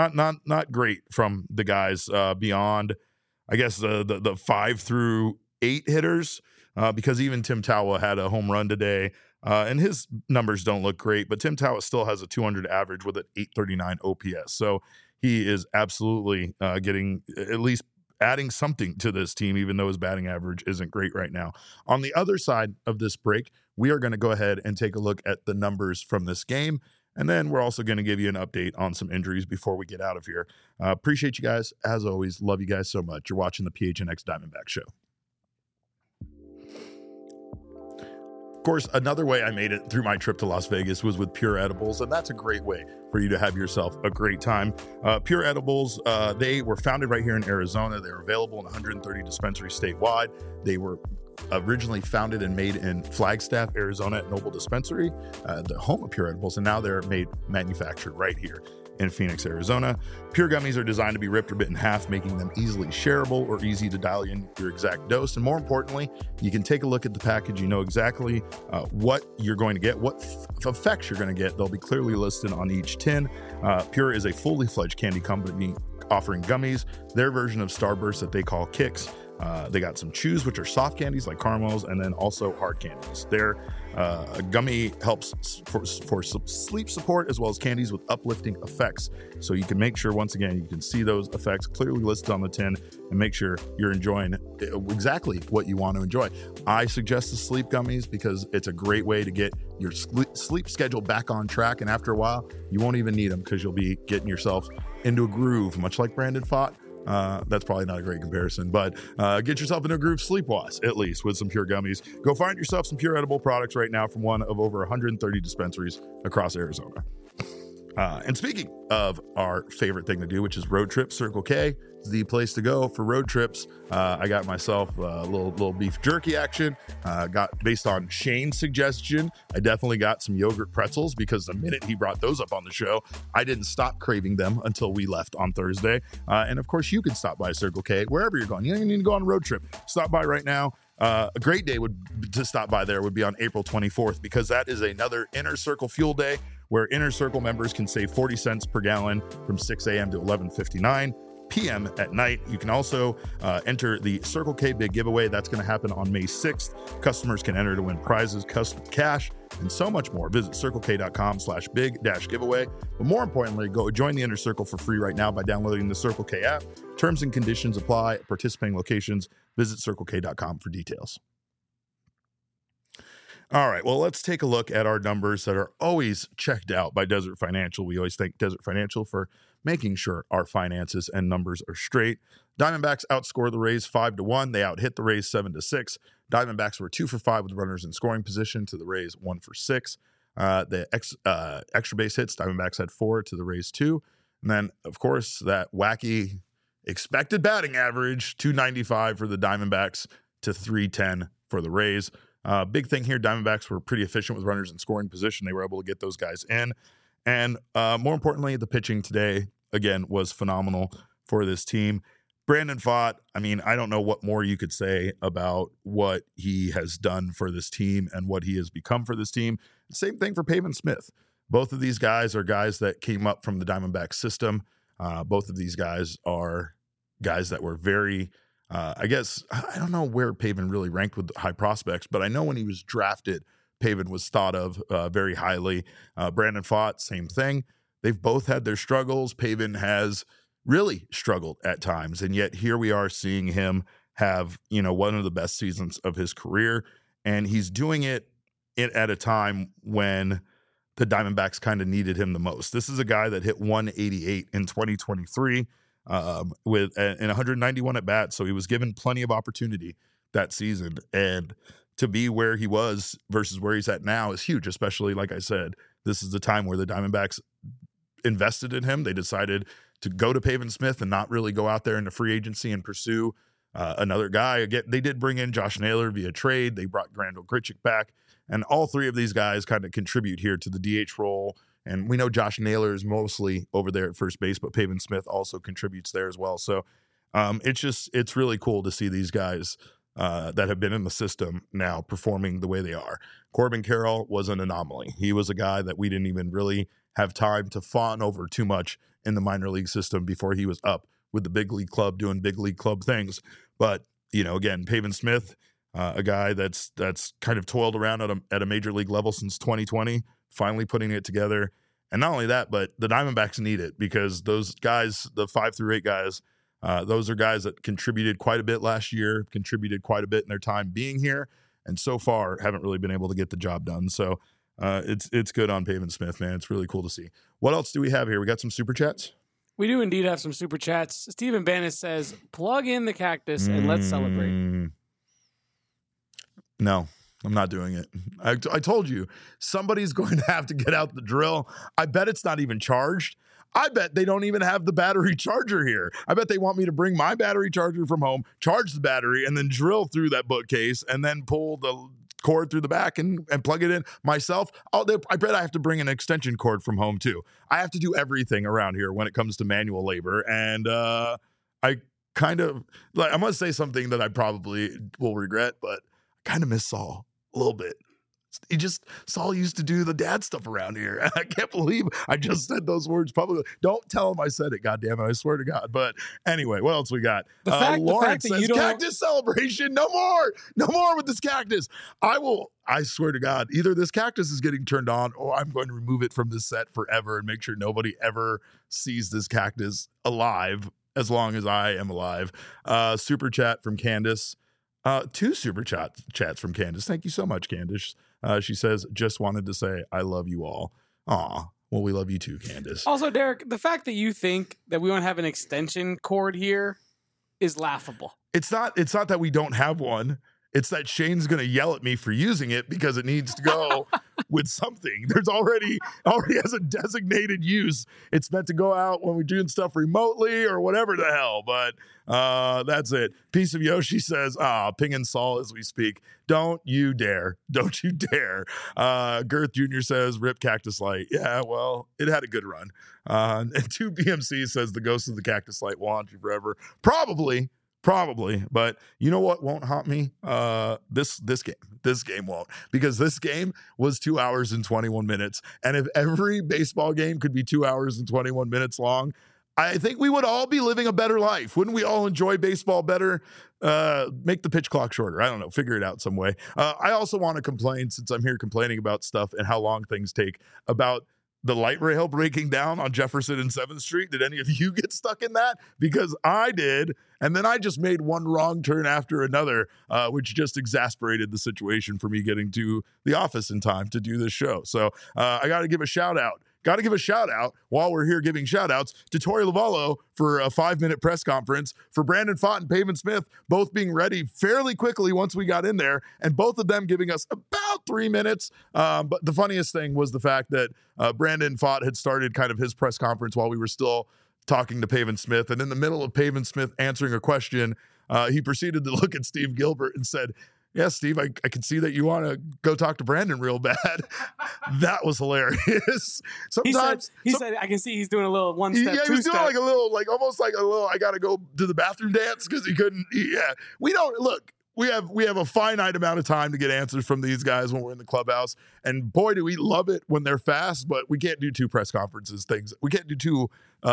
great from the guys beyond, I guess, the 5 through 8 hitters, because even Tim Tawa had a home run today, and his numbers don't look great, but Tim Tawa still has a 200 average with an 839 OPS. So he is absolutely getting at least adding something to this team, even though his batting average isn't great right now. On the other side of this break, we are going to go ahead and take a look at the numbers from this game. And then we're also going to give you an update on some injuries before we get out of here. Appreciate you guys. As always, love you guys so much. You're watching the PHNX Diamondback Show. Of course, another way I made it through my trip to Las Vegas was with Pure Edibles, and that's a great way for you to have yourself a great time. Pure Edibles, they were founded right here in Arizona. They're available in 130 dispensaries statewide. They were originally founded and made in Flagstaff, Arizona at Noble Dispensary, the home of Pure Edibles, and now they're manufactured right here in Phoenix, Arizona. Pure gummies are designed to be ripped or bit in half, making them easily shareable or easy to dial in your exact dose. And more importantly, you can take a look at the package. You know exactly what you're going to get, what effects you're going to get. They'll be clearly listed on each tin. Pure is a fully fledged candy company offering gummies, their version of Starburst that they call Kicks. They got some chews, which are soft candies like caramels, and then also hard candies. Their gummy helps for sleep support, as well as candies with uplifting effects. So you can make sure, once again, you can see those effects clearly listed on the tin and make sure you're enjoying exactly what you want to enjoy. I suggest the sleep gummies because it's a great way to get your sleep schedule back on track. And after a while, you won't even need them because you'll be getting yourself into a groove, much like Brandon Pfaadt. That's probably not a great comparison, but get yourself into a groove sleep-wise, at least, with some Pure gummies. Go find yourself some Pure edible products right now from one of over 130 dispensaries across Arizona. And speaking of our favorite thing to do, which is road trips, Circle K is the place to go for road trips. I got myself a little beef jerky action. Got based on Shane's suggestion. I definitely got some yogurt pretzels because the minute he brought those up on the show, I didn't stop craving them until we left on Thursday. And of course, you can stop by Circle K wherever you're going. You don't even need to go on a road trip. Stop by right now. A great day to stop by there would be on April 24th because that is another Inner Circle Fuel Day where Inner Circle members can save 40 cents per gallon from 6 a.m. to 11:59 p.m. at night. You can also enter the Circle K Big Giveaway. That's going to happen on May 6th. Customers can enter to win prizes, custom cash, and so much more. Visit circlek.com/big-giveaway. But more importantly, go join the Inner Circle for free right now by downloading the Circle K app. Terms and conditions apply at participating locations. Visit circlek.com for details. All right, well, let's take a look at our numbers that are always checked out by Desert Financial. We always thank Desert Financial for making sure our finances and numbers are straight. Diamondbacks outscored the Rays 5-1. They out-hit the Rays 7-6. Diamondbacks were 2 for 5 with runners in scoring position to the Rays 1 for 6. The extra base hits, Diamondbacks had 4 to the Rays 2. And then, of course, that wacky expected batting average, 295 for the Diamondbacks to 310 for the Rays. Big thing here, Diamondbacks were pretty efficient with runners in scoring position. They were able to get those guys in. And more importantly, the pitching today, again, was phenomenal for this team. Brandon Pfaadt, I mean, I don't know what more you could say about what he has done for this team and what he has become for this team. Same thing for Pavin Smith. Both of these guys are guys that came up from the Diamondback system. Both of these guys are guys that were very, I don't know where Pavin really ranked with high prospects, but I know when he was drafted, Pavin was thought of very highly. Brandon Pfaadt, same thing. They've both had their struggles. Pavin has really struggled at times, and yet here we are seeing him have, one of the best seasons of his career, and he's doing it at a time when the Diamondbacks kind of needed him the most. This is a guy that hit 188 in 2023 with 191 at bats, so he was given plenty of opportunity that season, and to be where he was versus where he's at now is huge, especially, like I said, this is the time where the Diamondbacks invested in him. They decided to go to Pavin Smith and not really go out there into free agency and pursue another guy. Again, they did bring in Josh Naylor via trade. They brought Grandal Grichuk back, and all three of these guys kind of contribute here to the DH role. And we know Josh Naylor is mostly over there at first base, but Pavin Smith also contributes there as well. So it's really cool to see these guys that have been in the system now performing the way they are. Corbin Carroll was an anomaly. He was a guy that we didn't even really have time to fawn over too much in the minor league system before he was up with the big league club doing big league club things. But, again, Pavin Smith, a guy that's kind of toiled around at a major league level since 2020, finally putting it together. And not only that, but the Diamondbacks need it because those guys, the 5 through 8 guys, those are guys that contributed quite a bit last year, contributed quite a bit in their time being here, and so far haven't really been able to get the job done. So it's good on Pavin Smith, man. It's really cool to see. What else do we have here? We got some super chats? We do indeed have some super chats. Stephen Bannis says, plug in the cactus and let's celebrate. No, I'm not doing it. I told you, somebody's going to have to get out the drill. I bet it's not even charged. I bet they don't even have the battery charger here. I bet they want me to bring my battery charger from home, charge the battery, and then drill through that bookcase and then pull the cord through the back and plug it in myself. I bet I have to bring an extension cord from home too. I have to do everything around here when it comes to manual labor. And I kind of, like, I'm going to say something that I probably will regret, but I kind of miss Saul a little bit. Saul used to do the dad stuff around here. I can't believe I just said those words publicly. Don't tell him I said it, goddammit, I swear to God. But anyway, what else we got? Lawrence says, cactus celebration, no more with this cactus. I swear to God, either this cactus is getting turned on or I'm going to remove it from this set forever and make sure nobody ever sees this cactus alive as long as I am alive. Super chat from Candace. 2 super chats from Candace. Thank you so much, Candace. She says, just wanted to say, I love you all. Aw, well, we love you too, Candace. Also, Derek, the fact that you think that we don't have an extension cord here is laughable. It's not that we don't have one. It's that Shane's going to yell at me for using it because it needs to go with something. There's already has a designated use. It's meant to go out when we're doing stuff remotely or whatever the hell. But that's it. Piece of Yoshi says, pinging Saul as we speak. Don't you dare. Don't you dare. Girth Jr. says, rip Cactus Light. Yeah, well, it had a good run. And 2 BMC says, the ghost of the Cactus Light will haunt you forever. Probably, but you know what won't haunt me? This game won't, because this game was 2 hours and 21 minutes. And if every baseball game could be 2 hours and 21 minutes long, I think we would all be living a better life. Wouldn't we all enjoy baseball better? Make the pitch clock shorter. I don't know. Figure it out some way. I also want to complain, since I'm here complaining about stuff and how long things take, about the light rail breaking down on Jefferson and 7th Street. Did any of you get stuck in that? Because I did. And then I just made one wrong turn after another, which just exasperated the situation for me getting to the office in time to do this show. So I got to give a shout out. Got to give a shout out while we're here giving shout outs to Tori Lavallo for a 5-minute press conference, for Brandon Pfaadt and Pavin Smith both being ready fairly quickly once we got in there, and both of them giving us about 3 minutes. But the funniest thing was the fact that Brandon Pfaadt had started kind of his press conference while we were still talking to Pavin Smith. And in the middle of Pavin Smith answering a question, he proceeded to look at Steve Gilbert and said, yeah, Steve, I can see that you want to go talk to Brandon real bad. That was hilarious. Sometimes he said, I can see he's doing a little one step. Yeah, he was doing like a little, almost like a little, I got to go to the bathroom dance because he couldn't. Yeah, we don't look. We have a finite amount of time to get answers from these guys when we're in the clubhouse. And boy, do we love it when they're fast, but we can't do 2 press conferences things. We can't do 2,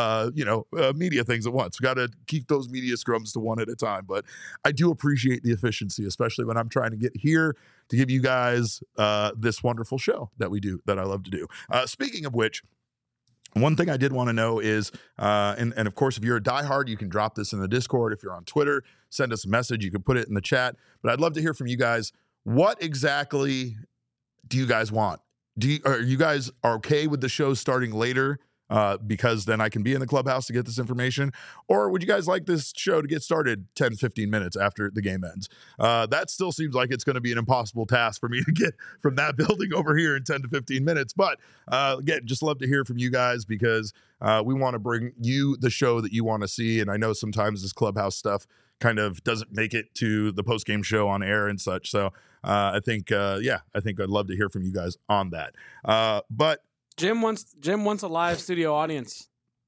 media things at once. We got to keep those media scrums to one at a time. But I do appreciate the efficiency, especially when I'm trying to get here to give you guys this wonderful show that we do, that I love to do. Speaking of which, one thing I did want to know is, and of course, if you're a diehard, you can drop this in the Discord. If you're on Twitter, send us a message. You can put it in the chat. But I'd love to hear from you guys. What exactly do you guys want? Are you guys okay with the show starting later? Because then I can be in the clubhouse to get this information? Or would you guys like this show to get started 10, 15 minutes after the game ends? That still seems like it's going to be an impossible task for me to get from that building over here in 10 to 15 minutes. But again, just love to hear from you guys, because we want to bring you the show that you want to see. And I know sometimes this clubhouse stuff kind of doesn't make it to the post-game show on air and such. So I think I'd love to hear from you guys on that. But Jim wants a live studio audience.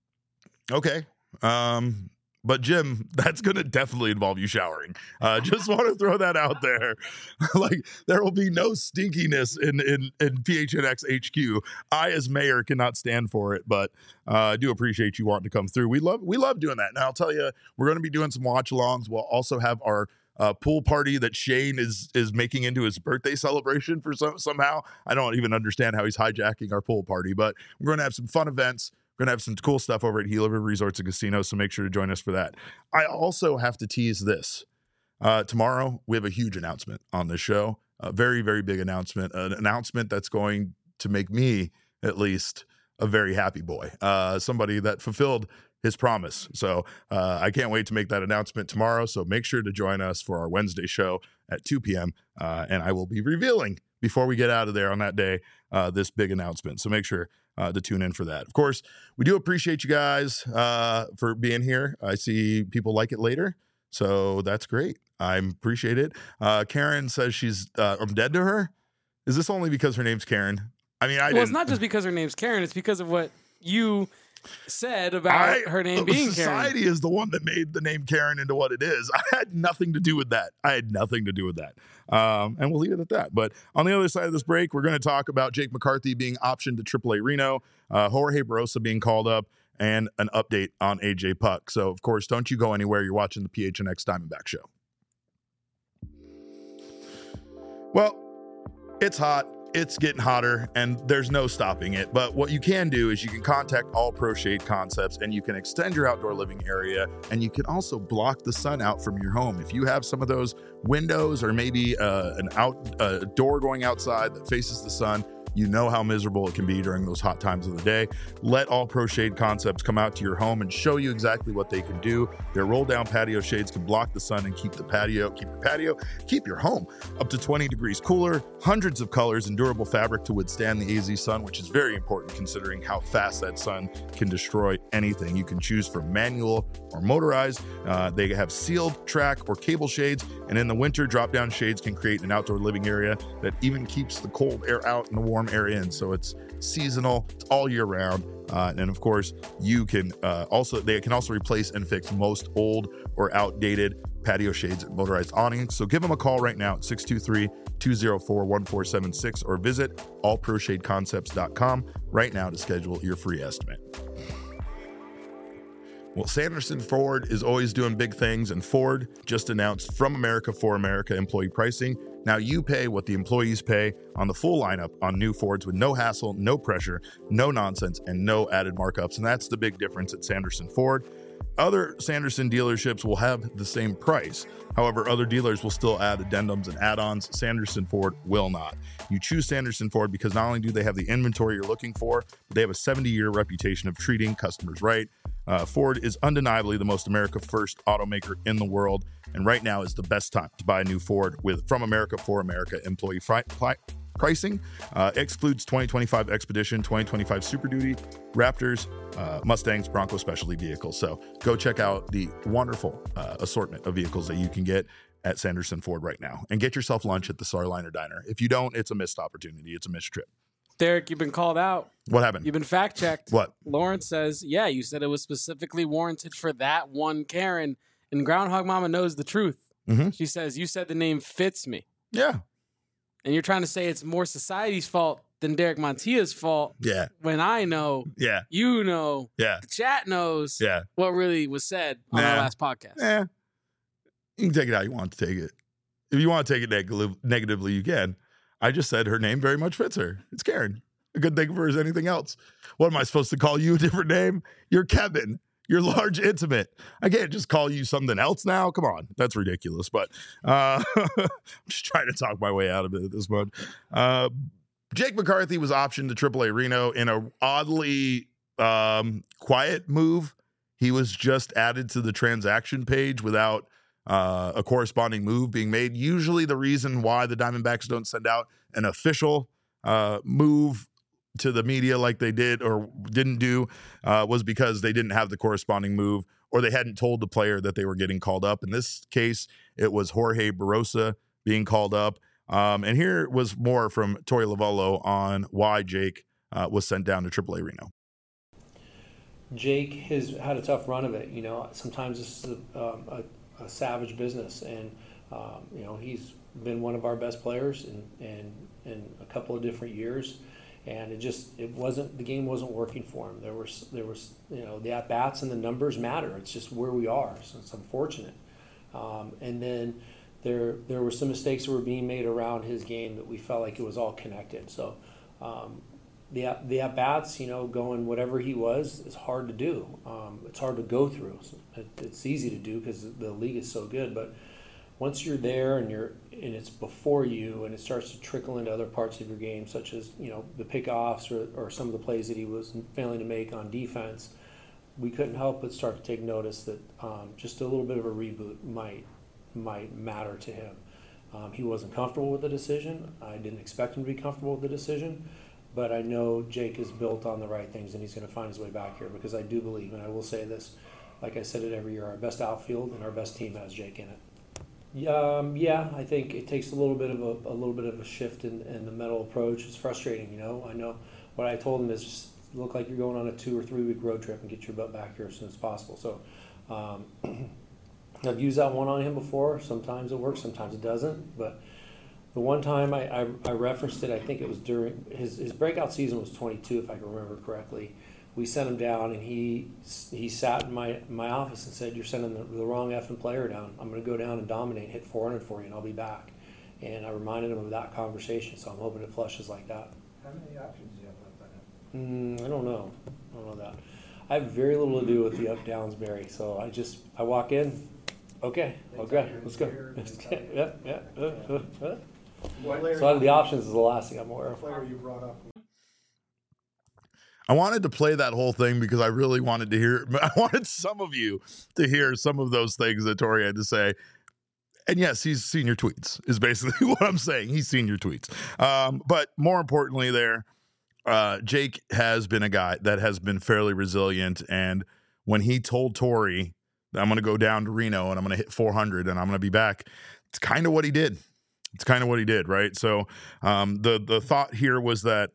Okay. But Jim, that's going to definitely involve you showering. Just want to throw that out there. Like, there will be no stinkiness in PHNX HQ. I, as mayor, cannot stand for it, but I do appreciate you wanting to come through. We love doing that. Now, I'll tell you, we're going to be doing some watch-alongs. We'll also have our pool party that Shane is making into his birthday celebration for somehow. I don't even understand how he's hijacking our pool party, but we're going to have some fun events. We're going to have some cool stuff over at Gila River Resorts and Casinos, so make sure to join us for that. I also have to tease this. Tomorrow, we have a huge announcement on this show, a very, very big announcement, an announcement that's going to make me, at least, a very happy boy, somebody that fulfilled his promise. So I can't wait to make that announcement tomorrow. So make sure to join us for our Wednesday show at 2 p.m. And I will be revealing, before we get out of there on that day, this big announcement. So make sure to tune in for that. Of course, we do appreciate you guys for being here. I see people like it later, so that's great. I appreciate it. Karen says I'm dead to her. Is this only because her name's Karen? I mean, it's not just because her name's Karen. It's because of what you said about her name being Karen. Society is the one that made the name Karen into what it is. I had nothing to do with that. And we'll leave it at that. But on the other side of this break, we're going to talk about Jake McCarthy being optioned to AAA Reno, Jorge Barosa being called up, and an update on AJ Puck. So, of course, don't you go anywhere. You're watching the PHNX Diamondback Show. Well, it's hot. It's getting hotter, and there's no stopping it. But what you can do is you can contact All Pro Shade Concepts, and you can extend your outdoor living area, and you can also block the sun out from your home. If you have some of those windows or maybe a door going outside that faces the sun, you know how miserable it can be during those hot times of the day. Let All Pro Shade Concepts come out to your home and show you exactly what they can do. Their roll-down patio shades can block the sun and keep your home up to 20 degrees cooler. Hundreds of colors and durable fabric to withstand the AZ sun, which is very important considering how fast that sun can destroy anything. You can choose from manual or motorized. They have sealed, track, or cable shades, and in the winter, drop-down shades can create an outdoor living area that even keeps the cold air out and the warm air in. So it's seasonal, it's all year round. And of course, you can they can also replace and fix most old or outdated patio shades and motorized awnings. So give them a call right now at 623-204-1476 or visit allproshadeconcepts.com right now to schedule your free estimate. Well, Sanderson Ford is always doing big things, and Ford just announced From America for America employee pricing. Now you pay what the employees pay on the full lineup on new Fords with no hassle, no pressure, no nonsense, and no added markups. And that's the big difference at Sanderson Ford. Other Sanderson dealerships will have the same price. However, other dealers will still add addendums and add-ons. Sanderson Ford will not. You choose Sanderson Ford because not only do they have the inventory you're looking for, but they have a 70-year reputation of treating customers right. Ford is undeniably the most America-first automaker in the world, and right now is the best time to buy a new Ford with From America for America employee pricing. Excludes 2025 Expedition, 2025 Super Duty, Raptors, Mustangs, Bronco specialty vehicles. So go check out the wonderful assortment of vehicles that you can get at Sanderson Ford right now, and get yourself lunch at the Starliner Diner. If you don't, it's a missed opportunity. It's a missed trip. Derek, you've been called out. What happened? You've been fact-checked. What? Lawrence says, yeah, you said it was specifically warranted for that one Karen, and Groundhog Mama knows the truth. Mm-hmm. She says, you said the name fits me. Yeah. And you're trying to say it's more society's fault than Derek Montia's fault. Yeah. When I know, yeah, you know, yeah, the chat knows, yeah, what really was said on our last podcast. Yeah. You can take it how you want to take it. If you want to take it negatively, you can. I just said her name very much fits her. It's Karen. A good thing for her is anything else. What am I supposed to call you a different name? You're Kevin. You're large intimate. I can't just call you something else now. Come on. That's ridiculous. But I'm just trying to talk my way out of it at this point. Jake McCarthy was optioned to AAA Reno in a oddly quiet move. He was just added to the transaction page without a corresponding move being made. Usually the reason why the Diamondbacks don't send out an official move to the media like they did or didn't do was because they didn't have the corresponding move, or they hadn't told the player that they were getting called up. In this case, it was Jorge Barosa being called up. And here was more from Torey Lovullo on why Jake was sent down to AAA Reno. Jake has had a tough run of it. You know, sometimes this is a savage business, and you know, he's been one of our best players in a couple of different years, and the game wasn't working for him. There was you know, the at bats and the numbers matter. It's just where we are, so it's unfortunate. And then there were some mistakes that were being made around his game that we felt like it was all connected. So the at bats, you know, going whatever he was is hard to do. It's hard to go through. It's easy to do because the league is so good, but once you're there and it's before you and it starts to trickle into other parts of your game, such as, you know, the pickoffs or some of the plays that he was failing to make on defense, we couldn't help but start to take notice that just a little bit of a reboot might matter to him. He wasn't comfortable with the decision. I didn't expect him to be comfortable with the decision, but I know Jake is built on the right things, and he's going to find his way back here, because I do believe, and I will say this, like I said it every year, our best outfield and our best team has Jake in it. Yeah, I think it takes a little bit of a shift in the mental approach. It's frustrating, you know. I know what I told him is just look like you're going on a 2 or 3 week road trip and get your butt back here as soon as possible. So I've used that one on him before. Sometimes it works, sometimes it doesn't. But the one time I referenced it, I think it was during his breakout season was 22, if I can remember correctly. We sent him down, and he sat in my office and said, "You're sending the wrong effing player down. I'm going to go down and dominate, hit 400 for you, and I'll be back." And I reminded him of that conversation, so I'm hoping it flushes like that. How many options do you have left on him? I don't know that. I have very little to do with the up downs, Barry. So I walk in. Okay, let's go. Yeah. So the options is the last thing I'm aware of. Player you brought up. I wanted to play that whole thing because I really wanted to hear. I wanted some of you to hear some of those things that Torey had to say. And yes, he's seen your tweets, is basically what I'm saying. He's seen your tweets. But more importantly there, Jake has been a guy that has been fairly resilient. And when he told Torey that I'm going to go down to Reno and I'm going to hit 400 and I'm going to be back, it's kind of what he did. Right? So the thought here was that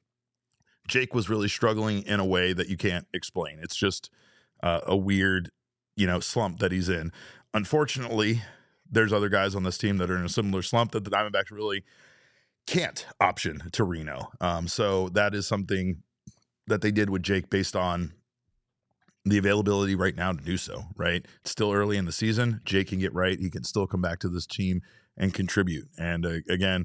Jake was really struggling in a way that you can't explain. It's just a weird, slump that he's in. Unfortunately, there's other guys on this team that are in a similar slump that the Diamondbacks really can't option to Reno. So that is something that they did with Jake based on the availability right now to do so, right? It's still early in the season. Jake can get right. He can still come back to this team and contribute. And again,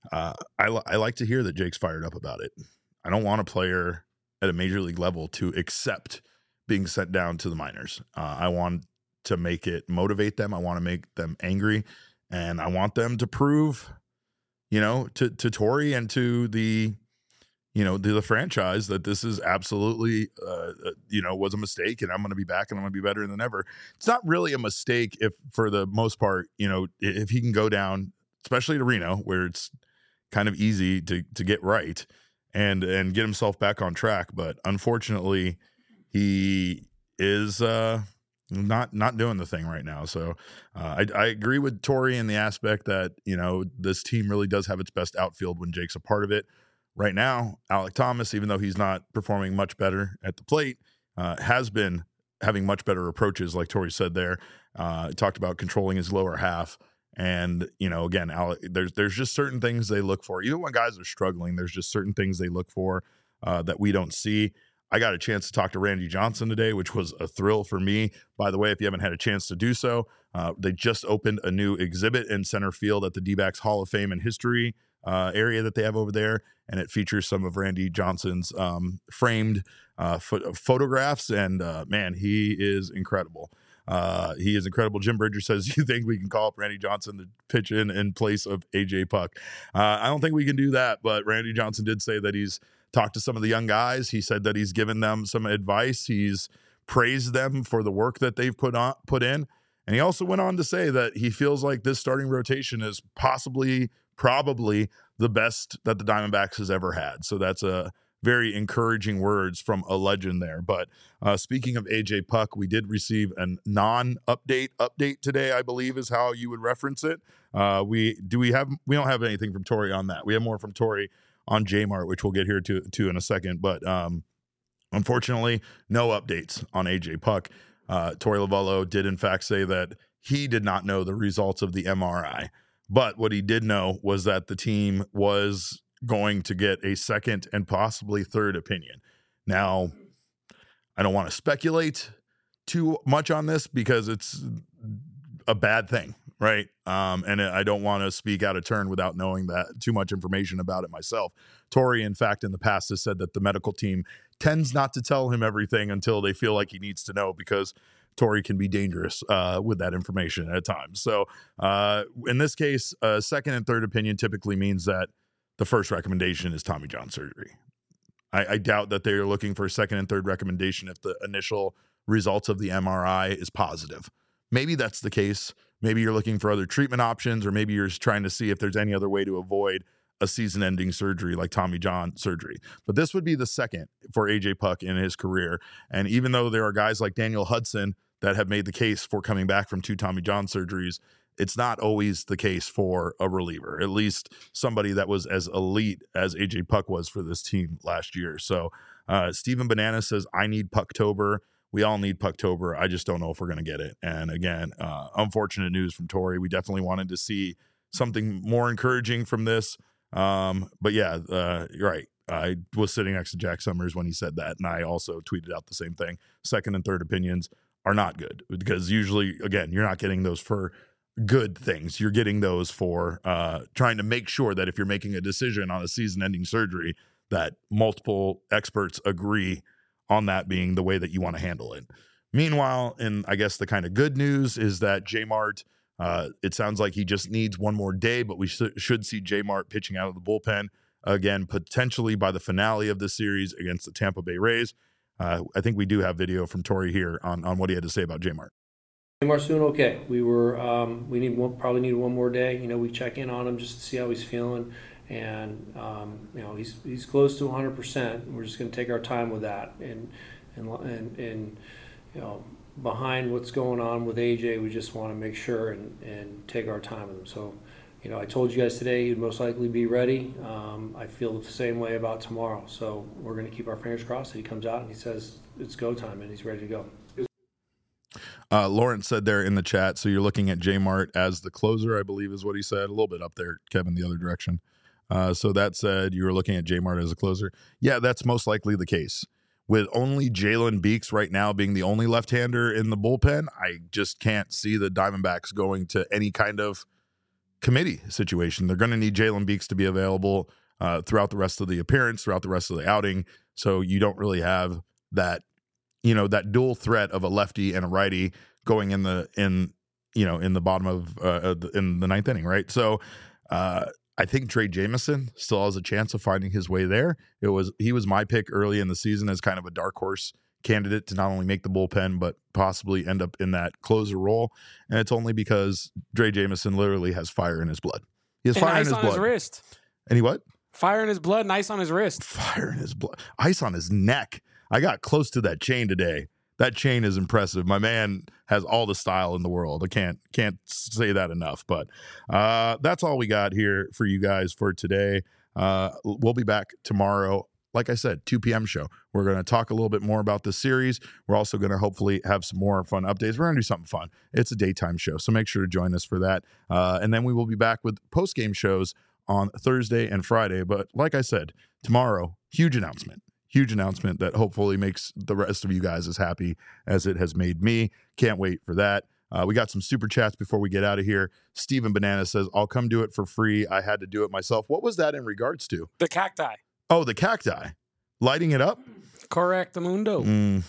I like to hear that Jake's fired up about it. I don't want a player at a major league level to accept being sent down to the minors. I want to make it motivate them. I want to make them angry, and I want them to prove, to Torey and to the franchise that this is absolutely, was a mistake, and I'm going to be back and I'm going to be better than ever. It's not really a mistake if, for the most part, if he can go down, especially to Reno, where it's kind of easy to get right and get himself back on track. But unfortunately, he is not doing the thing right now. So I agree with Torey in the aspect that, this team really does have its best outfield when Jake's a part of it. Right now, Alek Thomas, even though he's not performing much better at the plate, has been having much better approaches, like Torey said there. Talked about controlling his lower half. And, again, there's just certain things they look for. Even when guys are struggling, there's just certain things they look for that we don't see. I got a chance to talk to Randy Johnson today, which was a thrill for me. By the way, if you haven't had a chance to do so, they just opened a new exhibit in center field at the D-backs Hall of Fame and History area that they have over there. And it features some of Randy Johnson's framed photographs. And, man, he is incredible. He is incredible. Jim Bridger says, "You think we can call up Randy Johnson to pitch in place of AJ Puck?" I don't think we can do that, but Randy Johnson did say that he's talked to some of the young guys. He said that he's given them some advice. He's praised them for the work that they've put in. And he also went on to say that he feels like this starting rotation is probably the best that the Diamondbacks has ever had. So that's a very encouraging words from a legend there. But speaking of AJ Puck, we did receive a non-update today, I believe is how you would reference it. We don't have anything from Torey on that. We have more from Torey on J-Mart, which we'll get here to in a second. But unfortunately, no updates on AJ Puck. Torey Lovullo did in fact say that he did not know the results of the MRI. But what he did know was that the team was going to get a second and possibly third opinion. Now, I don't want to speculate too much on this because it's a bad thing, right? And I don't want to speak out of turn without knowing that too much information about it myself. Torey, in fact, in the past has said that the medical team tends not to tell him everything until they feel like he needs to know, because Torey can be dangerous with that information at times. So in this case, second and third opinion typically means that the first recommendation is Tommy John surgery. I doubt that they're looking for a second and third recommendation if the initial results of the MRI is positive. Maybe that's the case. Maybe you're looking for other treatment options, or maybe you're just trying to see if there's any other way to avoid a season-ending surgery like Tommy John surgery. But this would be the second for AJ Puck in his career. And even though there are guys like Daniel Hudson that have made the case for coming back from 2 Tommy John surgeries, it's not always the case for a reliever, at least somebody that was as elite as AJ Puck was for this team last year. So Steven Banana says, I need Pucktober. We all need Pucktober. I just don't know if we're going to get it. And again, unfortunate news from Tori. We definitely wanted to see something more encouraging from this. But yeah, you're right. I was sitting next to Jack Summers when he said that, and I also tweeted out the same thing. Second and third opinions are not good, because usually, again, you're not getting those for good things. You're getting those for trying to make sure that if you're making a decision on a season-ending surgery, that multiple experts agree on that being the way that you want to handle it. Meanwhile, and I guess the kind of good news is that J-Mart, it sounds like he just needs one more day, but we should see J-Mart pitching out of the bullpen again, potentially by the finale of the series against the Tampa Bay Rays. I think we do have video from Tori here on what he had to say about J-Mart. J-Mart's doing okay. We were probably need one more day. We check in on him just to see how he's feeling, and he's close to 100%. We're just going to take our time with that, and behind what's going on with AJ, we just want to make sure and take our time with him. So. I told you guys today he'd most likely be ready. I feel the same way about tomorrow. So we're going to keep our fingers crossed that he comes out and he says it's go time and he's ready to go. Lawrence said there in the chat, so you're looking at J-Mart as the closer, I believe is what he said. A little bit up there, Kevin, the other direction. So that said, you were looking at J-Mart as a closer. Yeah, that's most likely the case. With only Jalen Beeks right now being the only left-hander in the bullpen, I just can't see the Diamondbacks going to any kind of committee situation. They're going to need Jalen Beeks to be available throughout the rest of the appearance, throughout the rest of the outing. So you don't really have that, that dual threat of a lefty and a righty going in the bottom of in the ninth inning, right? So I think Trey Jameson still has a chance of finding his way there. He was my pick early in the season as kind of a dark horse candidate to not only make the bullpen but possibly end up in that closer role, and it's only because Trey Jameson literally has fire in his blood. He has and fire ice in his on blood. His wrist. And he what? Fire in his blood and ice on his wrist. Fire in his blood. Ice on his neck. I got close to that chain today. That chain is impressive. My man has all the style in the world. I can't say that enough. But that's all we got here for you guys for today. We'll be back tomorrow. Like I said, 2 p.m. show. We're going to talk a little bit more about this series. We're also going to hopefully have some more fun updates. We're going to do something fun. It's a daytime show, so make sure to join us for that. And then we will be back with post-game shows on Thursday and Friday. But like I said, tomorrow, huge announcement that hopefully makes the rest of you guys as happy as it has made me. Can't wait for that. We got some super chats before we get out of here. Steven Banana says, I'll come do it for free. I had to do it myself. What was that in regards to? The cacti. Oh, the cacti. Lighting it up? Correctamundo.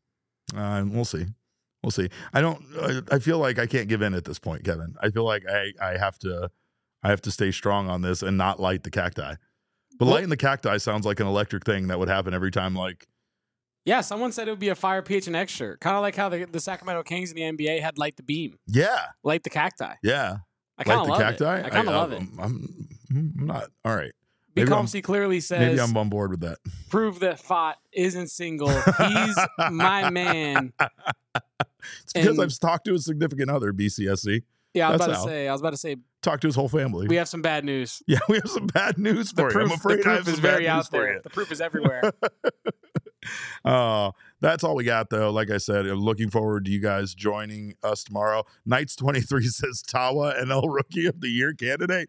We'll see. We'll see. I feel like I can't give in at this point, Kevin. I feel like I have to stay strong on this and not light the cacti. But lighting the cacti sounds like an electric thing that would happen every time, like. Yeah, someone said it would be a Fire PHNX shirt. Kind of like how the Sacramento Kings in the NBA had Light the Beam. Yeah. Light the cacti. Yeah. I kind of love cacti? it. I kind of love it. I'm not. All right. Because he clearly says, maybe I'm on board with that. Prove that Fott isn't single. He's my man. It's because I've talked to a significant other, BCSC. Yeah, I was about to say. Talk to his whole family. We have some bad news. Yeah, we have some bad news for you. I'm afraid I have some bad news for you. The proof is everywhere. That's all we got, though. Like I said, I'm looking forward to you guys joining us tomorrow. Knights 23 says Tawa NL Rookie of the Year candidate.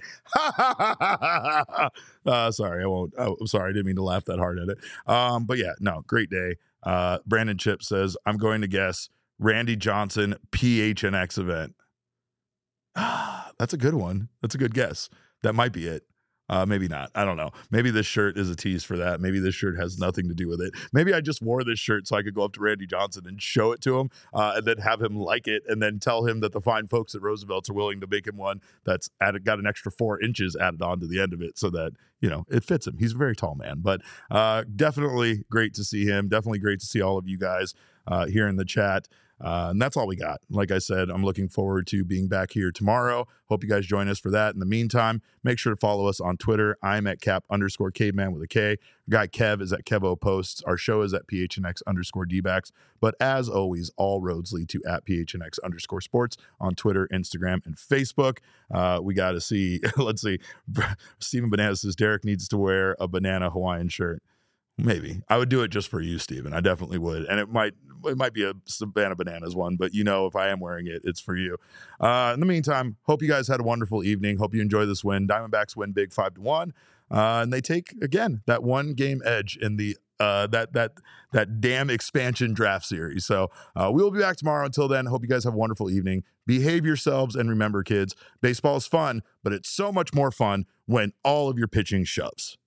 Sorry, I won't. Oh, I'm sorry. I didn't mean to laugh that hard at it. But yeah, no, great day. Brandon Chip says, I'm going to guess Randy Johnson PHNX event. That's a good one. That's a good guess. That might be it. Maybe not. I don't know. Maybe this shirt is a tease for that. Maybe this shirt has nothing to do with it. Maybe I just wore this shirt so I could go up to Randy Johnson and show it to him and then have him like it and then tell him that the fine folks at Roosevelt's are willing to make him one that's got an extra 4 inches added on to the end of it so that, it fits him. He's a very tall man, but definitely great to see him. Definitely great to see all of you guys here in the chat. And that's all we got. Like I said, I'm looking forward to being back here tomorrow. Hope you guys join us for that. In the meantime, make sure to follow us on Twitter. I'm at cap_caveman with a K. Our guy Kev is at Kevo Posts. Our show is at PHNX_DBacks. But as always, all roads lead to at PHNX_sports on Twitter, Instagram, and Facebook. We got to see, let's see. Steven Banana says Derek needs to wear a banana Hawaiian shirt. Maybe. I would do it just for you, Steven. I definitely would. And it might be a Savannah Bananas one, but if I am wearing it, it's for you. In the meantime, hope you guys had a wonderful evening. Hope you enjoy this win. Diamondbacks win big 5-1. And they take, again, that one game edge in the that damn expansion draft series. So we will be back tomorrow. Until then, hope you guys have a wonderful evening. Behave yourselves, and remember, kids, baseball is fun, but it's so much more fun when all of your pitching shoves.